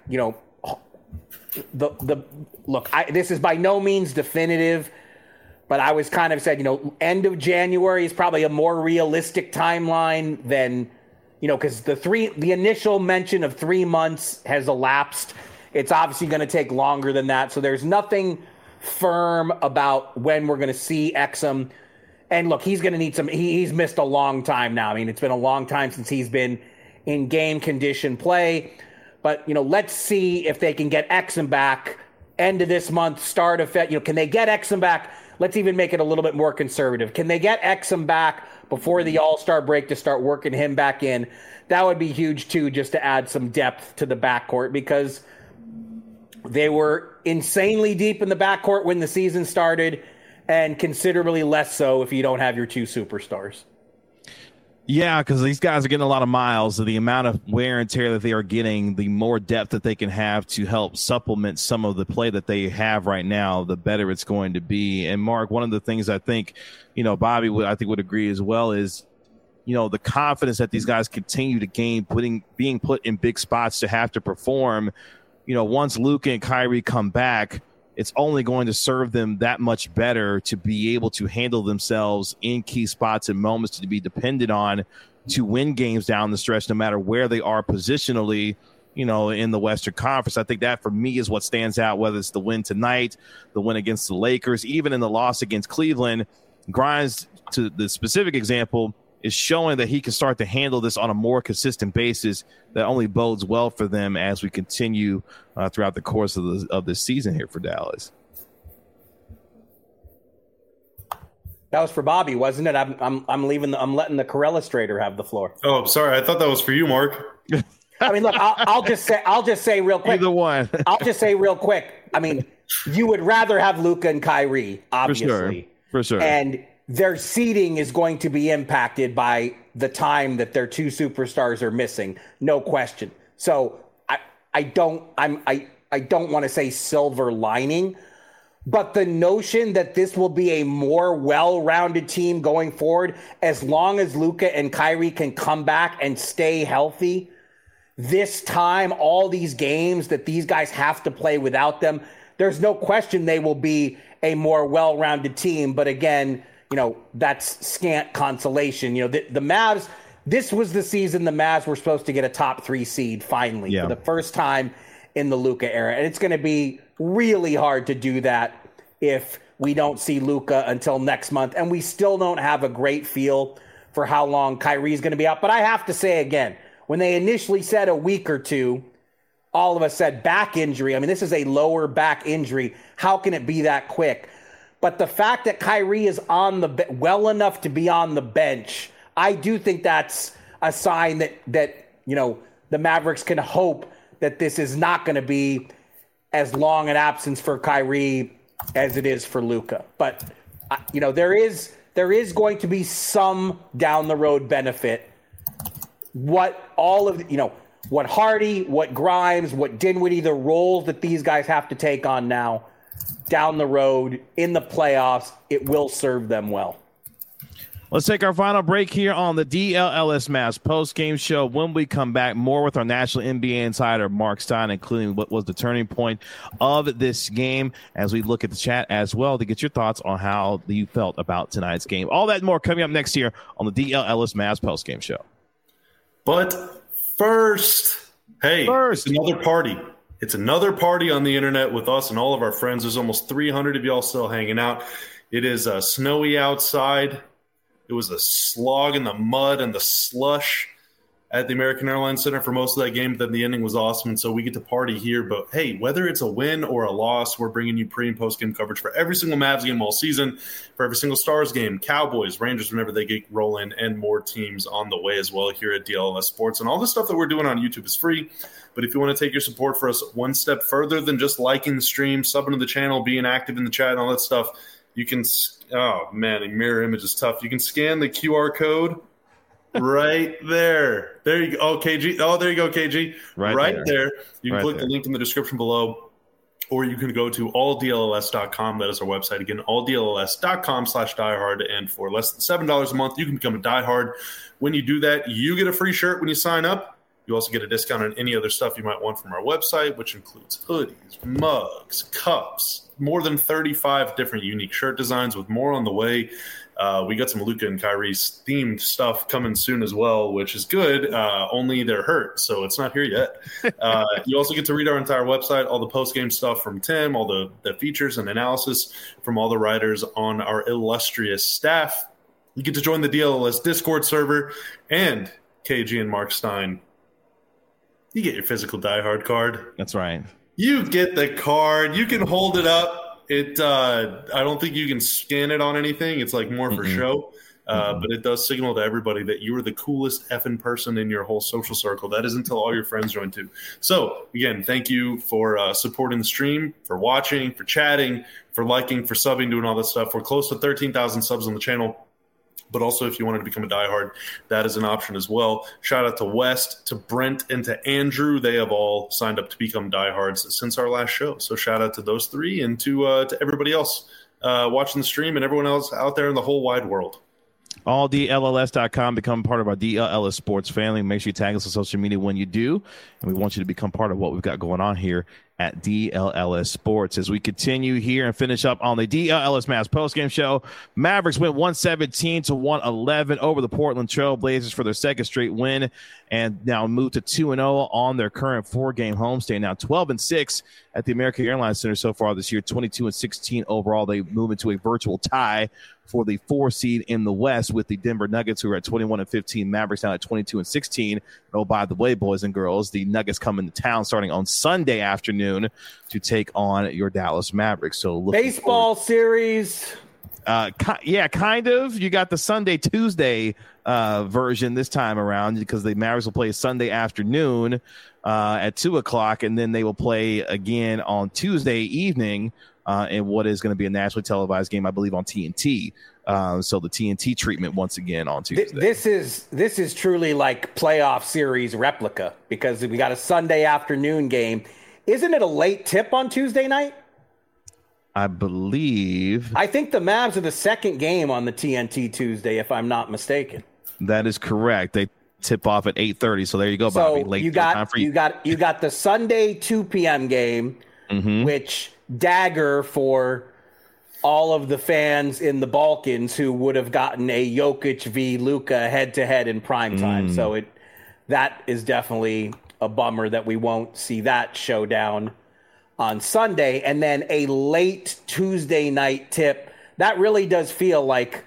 This is by no means definitive, but I was kind of said, end of January is probably a more realistic timeline than because the initial mention of 3 months has elapsed. It's obviously going to take longer than that. So there's nothing firm about when we're going to see Exum. And look, he's going to need he's missed a long time now. I mean, it's been a long time since he's been in game condition play. But, let's see if they can get Exum back end of this month, start of February. Can they get Exum back? Let's even make it a little bit more conservative. Can they get Exum back before the All-Star break to start working him back in? That would be huge, too, just to add some depth to the backcourt, because they were insanely deep in the backcourt when the season started and considerably less so if you don't have your two superstars. Yeah, because these guys are getting a lot of miles. So the amount of wear and tear that they are getting, the more depth that they can have to help supplement some of the play that they have right now, the better it's going to be. And Mark, one of the things I think, Bobby would agree as well is, the confidence that these guys continue to gain, being put in big spots to have to perform. Once Luka and Kyrie come back, it's only going to serve them that much better to be able to handle themselves in key spots and moments to be dependent on to win games down the stretch, no matter where they are positionally, in the Western Conference. I think that for me is what stands out, whether it's the win tonight, the win against the Lakers, even in the loss against Cleveland. Grimes, to the specific example, is showing that he can start to handle this on a more consistent basis that only bodes well for them as we continue throughout the course of this season here for Dallas. That was for Bobby, wasn't it? I'm letting the Corellustrator have the floor. Oh, sorry. I thought that was for you, Mark. I mean, look, I'll just say real quick. Either one. I'll just say real quick. I mean, you would rather have Luka and Kyrie, obviously. For sure. And their seeding is going to be impacted by the time that their two superstars are missing, no question. So I don't want to say silver lining, but the notion that this will be a more well-rounded team going forward, as long as Luka and Kyrie can come back and stay healthy, this time, all these games that these guys have to play without them, there's no question they will be a more well-rounded team. But again, that's scant consolation. The Mavs, this was the season the Mavs were supposed to get a top 3 seed finally for the first time in the Luka era. And it's going to be really hard to do that if we don't see Luka until next month. And we still don't have a great feel for how long Kyrie's going to be out. But I have to say again, when they initially said a week or two, all of us said back injury. I mean, this is a lower back injury. How can it be that quick? But the fact that Kyrie is well enough to be on the bench, I do think that's a sign that the Mavericks can hope that this is not going to be as long an absence for Kyrie as it is for Luka. But there is going to be some down the road benefit. What Hardy, what Grimes, what Dinwiddie, the roles that these guys have to take on now, down the road in the playoffs, it will serve them well. Let's take our final break here on the DLLS Mavs post-game show. When we come back, more with our national NBA insider, Mark Stein, including what was the turning point of this game as we look at the chat as well to get your thoughts on how you felt about tonight's game. All that and more coming up next year on the DLLS Mavs post-game show. But first, it's another party. It's another party on the internet with us and all of our friends. There's almost 300 of y'all still hanging out. It is snowy outside. It was a slog in the mud and the slush at the American Airlines Center for most of that game, but then the ending was awesome, and so we get to party here. But, hey, whether it's a win or a loss, we're bringing you pre- and post-game coverage for every single Mavs game all season, for every single Stars game, Cowboys, Rangers, whenever they get rolling, and more teams on the way as well here at DLLS Sports. And all the stuff that we're doing on YouTube is free, but if you want to take your support for us one step further than just liking the stream, subbing to the channel, being active in the chat, and all that stuff, you can – oh, man, a mirror image is tough. You can scan the QR code right there. There you go. Oh, KG. Oh, there you go, KG. Right there. You can click the link in the description below, or you can go to alldlls.com. That is our website. Again, alldlls.com/diehard. And for less than $7 a month, you can become a diehard. When you do that, you get a free shirt when you sign up. You also get a discount on any other stuff you might want from our website, which includes hoodies, mugs, cups, more than 35 different unique shirt designs with more on the way. We got some Luka and Kyrie's themed stuff coming soon as well, which is good. Only they're hurt, so it's not here yet. You also get to read our entire website, all the post-game stuff from Tim, all the features and analysis from all the writers on our illustrious staff. You get to join the DLLS Discord server, and KG and Mark Stein, you get your physical diehard card. That's right. You get the card. You can hold it up. I don't think you can scan it on anything. It's like more for show. But it does signal to everybody that you are the coolest effing person in your whole social circle. That is until all your friends join too. So, again, thank you for supporting the stream, for watching, for chatting, for liking, for subbing, doing all that stuff. We're close to 13,000 subs on the channel. But also, if you wanted to become a diehard, that is an option as well. Shout out to West, to Brent, and to Andrew. They have all signed up to become diehards since our last show. So shout out to those three and to everybody else watching the stream and everyone else out there in the whole wide world. AllDLLS.com. Become part of our DLLS Sports family. Make sure you tag us on social media when you do. And we want you to become part of what we've got going on here at DLLS Sports. As we continue here and finish up on the DLLS Mavs postgame show, Mavericks went 117-111 over the Portland Trail Blazers for their second straight win and now move to 2-0 on their current four-game homestand. Now 12-6 at the American Airlines Center so far this year, 22-16 overall. They move into a virtual tie for the 4 seed in the West with the Denver Nuggets, who are at 21-15. Mavericks now at 22-16. And oh, by the way, boys and girls, the Nuggets come into town starting on Sunday afternoon to take on your Dallas Mavericks. So baseball series. Yeah, kind of. You got the Sunday-Tuesday version this time around because the Mavericks will play Sunday afternoon at 2 o'clock, and then they will play again on Tuesday evening in what is going to be a nationally televised game, I believe, on TNT. So the TNT treatment once again on Tuesday. This is truly like playoff series replica because we got a Sunday afternoon game. Isn't it a late tip on Tuesday night? I believe. I think the Mavs are the second game on the TNT Tuesday, if I'm not mistaken. That is correct. They tip off at 8:30. So there you go, Bobby. So late you got the Sunday 2 p.m. game, which dagger for all of the fans in the Balkans who would have gotten a Jokic v. Luka head-to-head in prime time. So that is definitely a bummer that we won't see that showdown on Sunday. And then a late Tuesday night tip. That really does feel like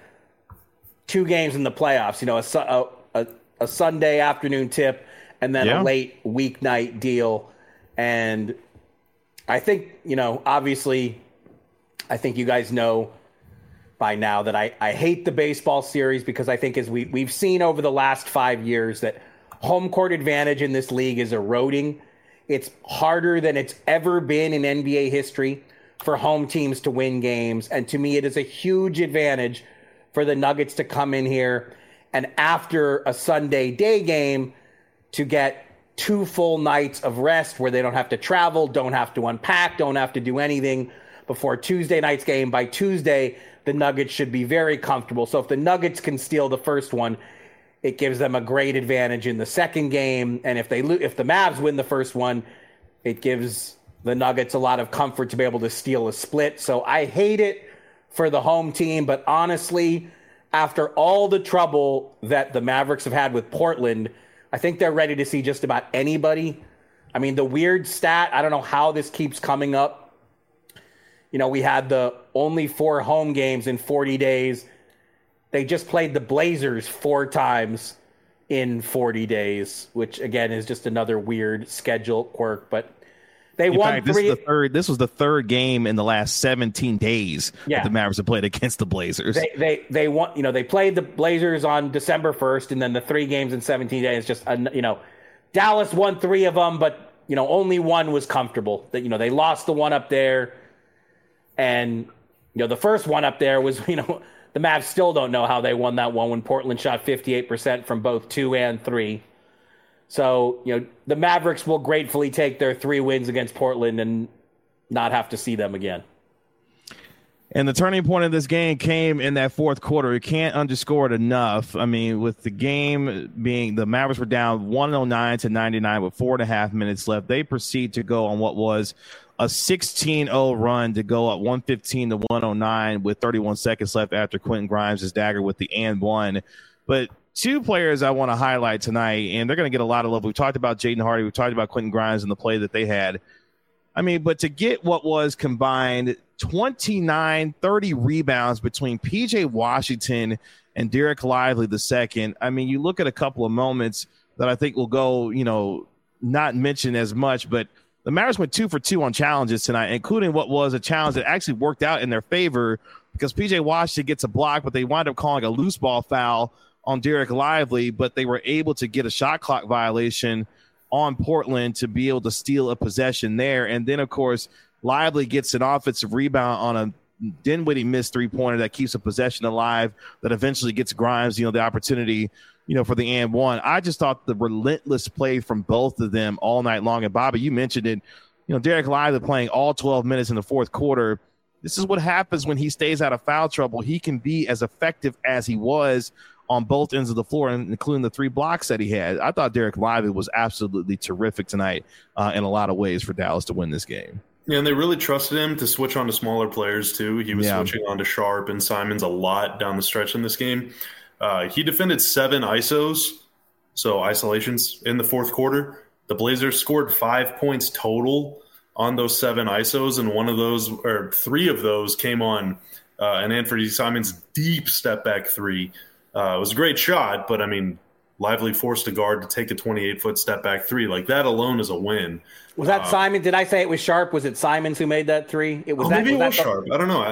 2 games in the playoffs. You know, a Sunday afternoon tip and then a late weeknight deal. And I think, you know, obviously, I think you guys know by now that I hate the baseball series because I think as we've seen over the last 5 years that home court advantage in this league is eroding. It's harder than it's ever been in NBA history for home teams to win games. And to me, it is a huge advantage for the Nuggets to come in here and after a Sunday day game to get 2 full nights of rest where they don't have to travel, don't have to unpack, don't have to do anything before Tuesday night's game. By Tuesday, the Nuggets should be very comfortable. So if the Nuggets can steal the first one, it gives them a great advantage in the second game. And if the Mavs win the first one, it gives the Nuggets a lot of comfort to be able to steal a split. So I hate it for the home team, but honestly, after all the trouble that the Mavericks have had with Portland, I think they're ready to see just about anybody. I mean, the weird stat, I don't know how this keeps coming up. You know, we had the only 4 home games in 40 days. They just played the Blazers 4 times in 40 days, which again is just another weird schedule quirk, but they won 3. This was the third game in the last 17 days that the Mavericks have played against the Blazers. They won. You know, they played the Blazers on December 1st, and then the 3 games in 17 days. Just Dallas won 3 of them, but only one was comfortable. That they lost the one up there, and the first one up there was the Mavs still don't know how they won that one when Portland shot 58% from both 2 and 3. So, the Mavericks will gratefully take their 3 wins against Portland and not have to see them again. And the turning point of this game came in that fourth quarter. You can't underscore it enough. I mean, with the game being the Mavericks were down 109-99 with 4.5 minutes left. They proceed to go on what was a 16-0 run to go up 115-109 with 31 seconds left after Quentin Grimes' dagger with the and one. But 2 players I want to highlight tonight, and they're going to get a lot of love. We've talked about Jaden Hardy. We've talked about Quentin Grimes and the play that they had. I mean, but to get what was combined 29, 30 rebounds between P.J. Washington and Derek Lively II, I mean, you look at a couple of moments that I think will go, not mentioned as much, but the Mavericks went 2 for 2 on challenges tonight, including what was a challenge that actually worked out in their favor because P.J. Washington gets a block, but they wind up calling a loose ball foul on Derek Lively, but they were able to get a shot clock violation on Portland to be able to steal a possession there. And then, of course, Lively gets an offensive rebound on a Dinwiddie missed 3-pointer that keeps a possession alive that eventually gets Grimes, the opportunity, for the and one. I just thought the relentless play from both of them all night long. And, Bobby, you mentioned it, Derek Lively playing all 12 minutes in the fourth quarter. This is what happens when he stays out of foul trouble. He can be as effective as he was on both ends of the floor, including the 3 blocks that he had. I thought Derek Lively was absolutely terrific tonight in a lot of ways for Dallas to win this game. Yeah, and they really trusted him to switch on to smaller players, too. He was switching on to Sharp and Simons a lot down the stretch in this game. He defended 7 ISOs, so isolations, in the fourth quarter. The Blazers scored 5 points total on those 7 ISOs, and 3 of those came on an Anthony Simons deep step-back 3. It was a great shot, but, I mean, Lively forced a guard to take a 28-foot step-back 3. Like, that alone is a win. Was that Simon? Did I say it was Sharp? Was it Simons who made that 3? It was maybe it was Sharp. I don't know.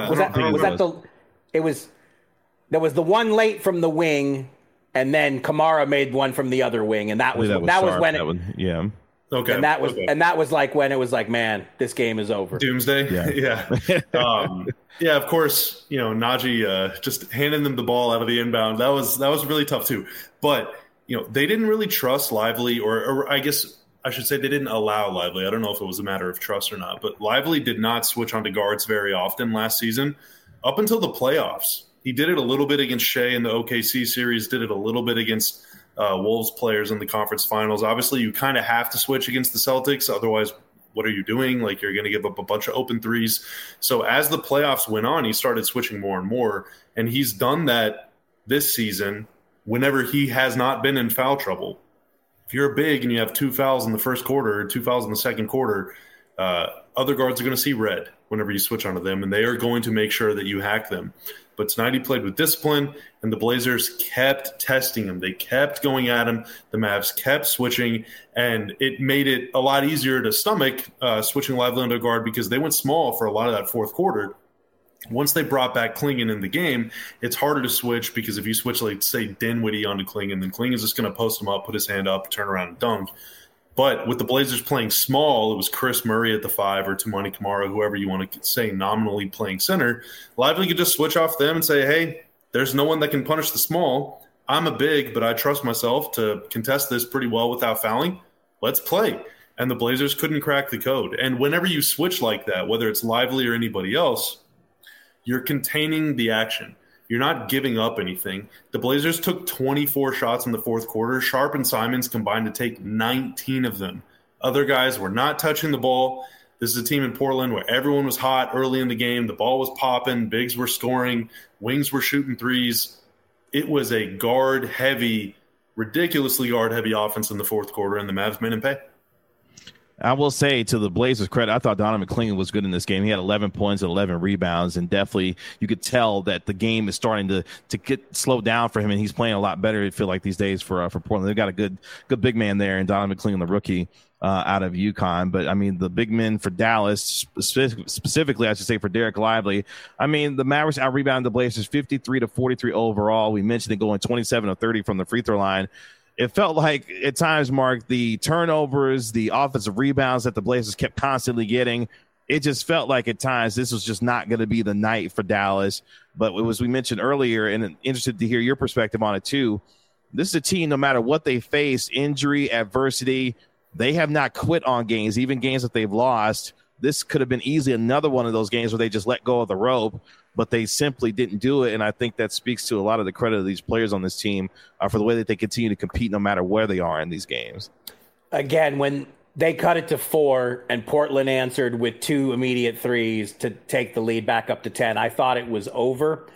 There was the one late from the wing, and then Kamara made one from the other wing, and that was when it. Okay. And that was like when it was like, man, this game is over. Doomsday. Yeah. Yeah. Of course, Najee just handing them the ball out of the inbound. That was really tough too. But they didn't really trust Lively, or I guess I should say they didn't allow Lively. I don't know if it was a matter of trust or not, but Lively did not switch onto guards very often last season up until the playoffs. He did it a little bit against Shea in the OKC series, did it a little bit against Wolves players in the conference finals. Obviously, you kind of have to switch against the Celtics. Otherwise, what are you doing? Like, you're going to give up a bunch of open threes. So as the playoffs went on, he started switching more and more. And he's done that this season whenever he has not been in foul trouble. If you're big and you have 2 fouls in the first quarter or 2 fouls in the second quarter, other guards are going to see red whenever you switch onto them, and they are going to make sure that you hack them. But tonight he played with discipline, and the Blazers kept testing him. They kept going at him. The Mavs kept switching, and it made it a lot easier to stomach switching Lively into guard because they went small for a lot of that fourth quarter. Once they brought back Klingon in the game, it's harder to switch because if you switch, like, say, Dinwiddie onto Klingon, then Klingon's just going to post him up, put his hand up, turn around and dunk. But with the Blazers playing small, it was Chris Murray at the 5 or Toumani Camara, whoever you want to say nominally playing center. Lively could just switch off them and say, hey, there's no one that can punish the small. I'm a big, but I trust myself to contest this pretty well without fouling. Let's play. and the Blazers couldn't crack the code. And whenever you switch like that, whether it's Lively or anybody else, you're containing the action. You're not giving up anything. The Blazers took 24 shots in the fourth quarter. Sharp and Simons combined to take 19 of them. Other guys were not touching the ball. This is a team in Portland where everyone was hot early in the game. The ball was popping. Bigs were scoring. Wings were shooting threes. It was a guard-heavy, ridiculously guard-heavy offense in the fourth quarter, and the Mavs made him pay. I will say, to the Blazers' credit, I thought Donovan McClain was good in this game. He had 11 points and 11 rebounds, and definitely you could tell that the game is starting to get slowed down for him, and he's playing a lot better, I feel like, these days for Portland. They've got a good big man there, and Donovan McClain, the rookie out of UConn. But, I mean, the big men for Dallas, specifically, I should say, for Derek Lively, I mean, the Mavericks out-rebounded the Blazers 53-43 overall. We mentioned it going 27 of 30 from the free throw line. It felt like at times, Mark, the turnovers, the offensive rebounds that the Blazers kept constantly getting, it just felt like at times this was just not going to be the night for Dallas. But it was, we mentioned earlier, and interested to hear your perspective on it too, this is a team, no matter what they face, injury, adversity, they have not quit on games, even games that they've lost. This could have been easily another one of those games where they just let go of the rope, but they simply didn't do it. And I think that speaks to a lot of the credit of these players on this team for the way that they continue to compete no matter where they are in these games. Again, when they cut it to 4 and Portland answered with 2 immediate threes to take the lead back up to 10, I thought it was over.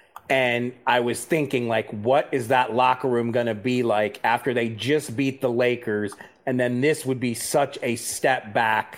And I was thinking, like, what is that locker room going to be like after they just beat the Lakers? And then this would be such a step back.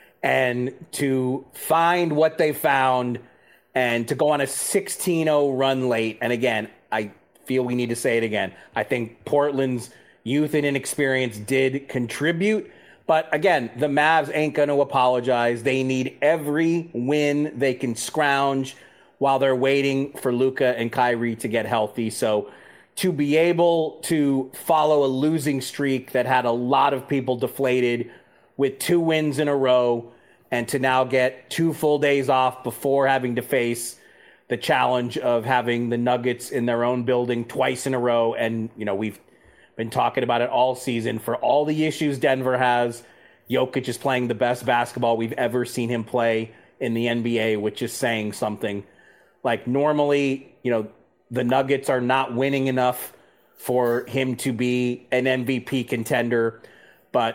And to find what they found and to go on a 16-0 run late. And again, I feel we need to say it again. I think Portland's youth and inexperience did contribute. But again, the Mavs ain't going to apologize. They need every win they can scrounge while they're waiting for Luka and Kyrie to get healthy. So to be able to follow a losing streak that had a lot of people deflated with 2 wins in a row, and to now get 2 full days off before having to face the challenge of having the Nuggets in their own building twice in a row. And, you know, we've been talking about it all season. For all the issues Denver has, Jokic is playing the best basketball we've ever seen him play in the NBA, which is saying something. Like, normally, you know, the Nuggets are not winning enough for him to be an MVP contender, but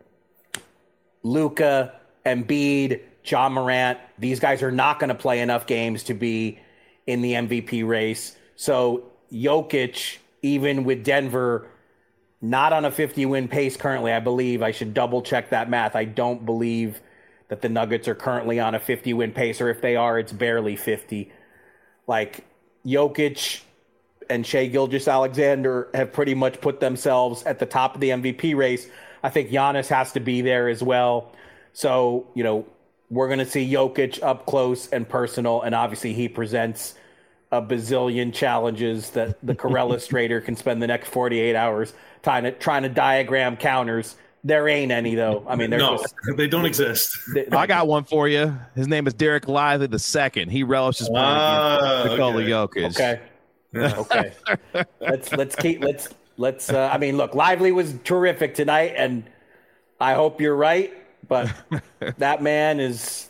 Luka, Embiid, Ja Morant, these guys are not going to play enough games to be in the MVP race. So Jokic, even with Denver not on a 50-win pace currently, I believe, I should double-check that math. I don't believe that the Nuggets are currently on a 50-win pace, or if they are, it's barely 50. Like, Jokic and Shai Gilgeous-Alexander have pretty much put themselves at the top of the MVP race. I think Giannis has to be there as well. So, you know, we're going to see Jokic up close and personal, and obviously he presents a bazillion challenges that the Corellistrator can spend the next 48 hours trying to diagram counters. There ain't any, though. I mean, they don't exist. I got one for you. His name is Derek Lively II. He relishes playing against Nikola Jokic. Okay. Let's I mean, look, Lively was terrific tonight, and I hope you're right. But that man is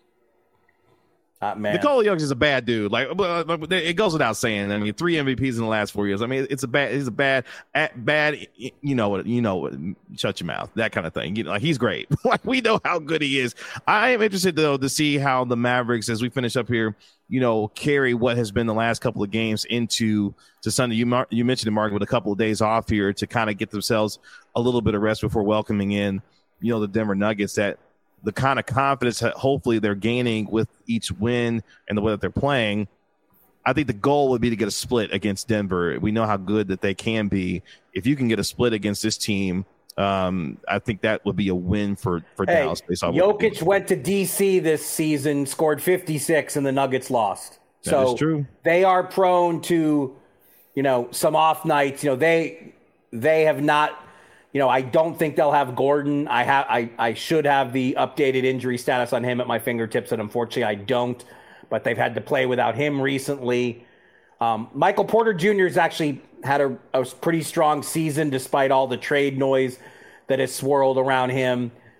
Nikola Jokic is a bad dude. Like, it goes without saying. I mean, 3 MVPs in the last 4 years. I mean, he's a bad. You know what? Shut your mouth. That kind of thing. You know, like, he's great. Like, we know how good he is. I am interested though to see how the Mavericks, as we finish up here, you know, carry what has been the last couple of games into Sunday. You mentioned it, Mark, with a couple of days off here to kind of get themselves a little bit of rest before welcoming in, you know, the Denver Nuggets. That the kind of confidence that hopefully they're gaining with each win and the way that they're playing, I think the goal would be to get a split against Denver. We know how good that they can be. If you can get a split against this team, I think that would be a win for Dallas. Jokic went to D.C. this season, scored 56, and the Nuggets lost. That is true. They are prone to, you know, some off nights. You know, they have not. You know, I don't think they'll have Gordon. I should have the updated injury status on him at my fingertips, and unfortunately I don't. But they've had to play without him recently. Michael Porter Jr. has actually had a pretty strong season despite all the trade noise that has swirled around him.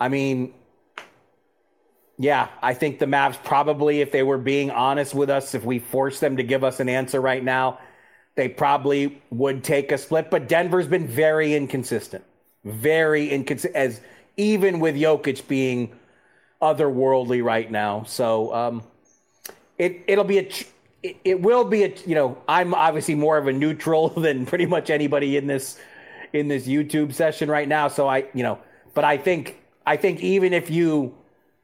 I mean, yeah, I think the Mavs probably, if they were being honest with us, if we forced them to give us an answer right now, they probably would take a split. But Denver's been very inconsistent. As even with Jokic being otherworldly right now. So it will be a I'm obviously more of a neutral than pretty much anybody in this YouTube session right now. So but I think even if you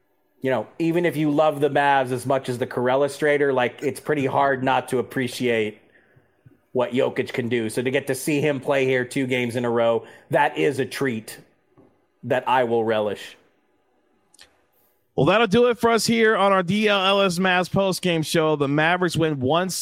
love the Mavs as much as the Corellistrator, like, it's pretty hard not to appreciate what Jokic can do. So to get to see him play here 2 games in a row, that is a treat that I will relish. Well, that'll do it for us here on our DLLS Mavs postgame show. The Mavericks win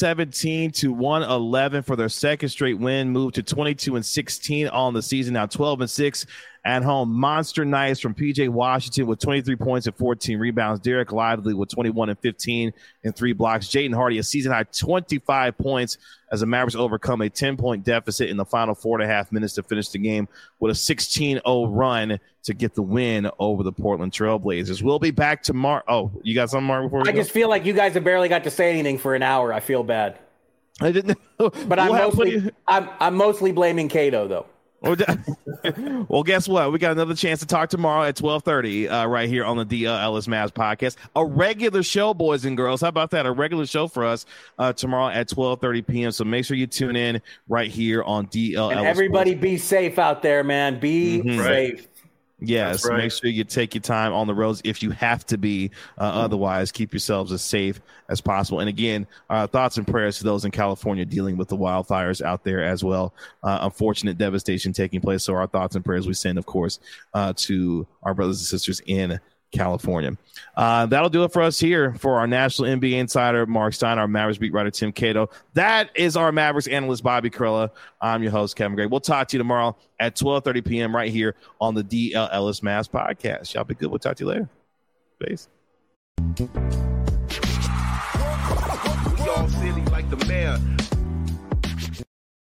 117-111 for their second straight win, moved to 22-16 on the season, now 12-6 at home. Monster nights from PJ Washington with 23 points and 14 rebounds. Derek Lively with 21 and 15 and 3 blocks. Jaden Hardy, a season-high 25 points as the Mavericks overcome a 10-point deficit in the final 4.5 minutes to finish the game with a 16-0 run to get the win over the Portland Trailblazers. We'll be back tomorrow. Oh, you got something, Mark, before we go? I just feel like you guys have barely got to say anything for an hour. I feel bad. I didn't know. But I'm mostly blaming Cato, though. Well, guess what? We got another chance to talk tomorrow at 12:30 right here on the DLLS Mavs podcast. A regular show, boys and girls. How about that? A regular show for us tomorrow at 12:30 p.m. So make sure you tune in right here on DLLS. And everybody be safe out there, man. Be safe. Yes, right. Make sure you take your time on the roads if you have to be. Otherwise, keep yourselves as safe as possible. And again, thoughts and prayers to those in California dealing with the wildfires out there as well. Unfortunate devastation taking place. So our thoughts and prayers we send, of course, to our brothers and sisters in California. That'll do it for us here for our National NBA Insider, Mark Stein, our Mavericks beat writer, Tim Cato. That is our Mavericks analyst, Bobby Carella. I'm your host, Kevin Gray. We'll talk to you tomorrow at 12:30 p.m. right here on the DLLS Mavs podcast. Y'all be good. We'll talk to you later. Peace. We all silly like the mayor.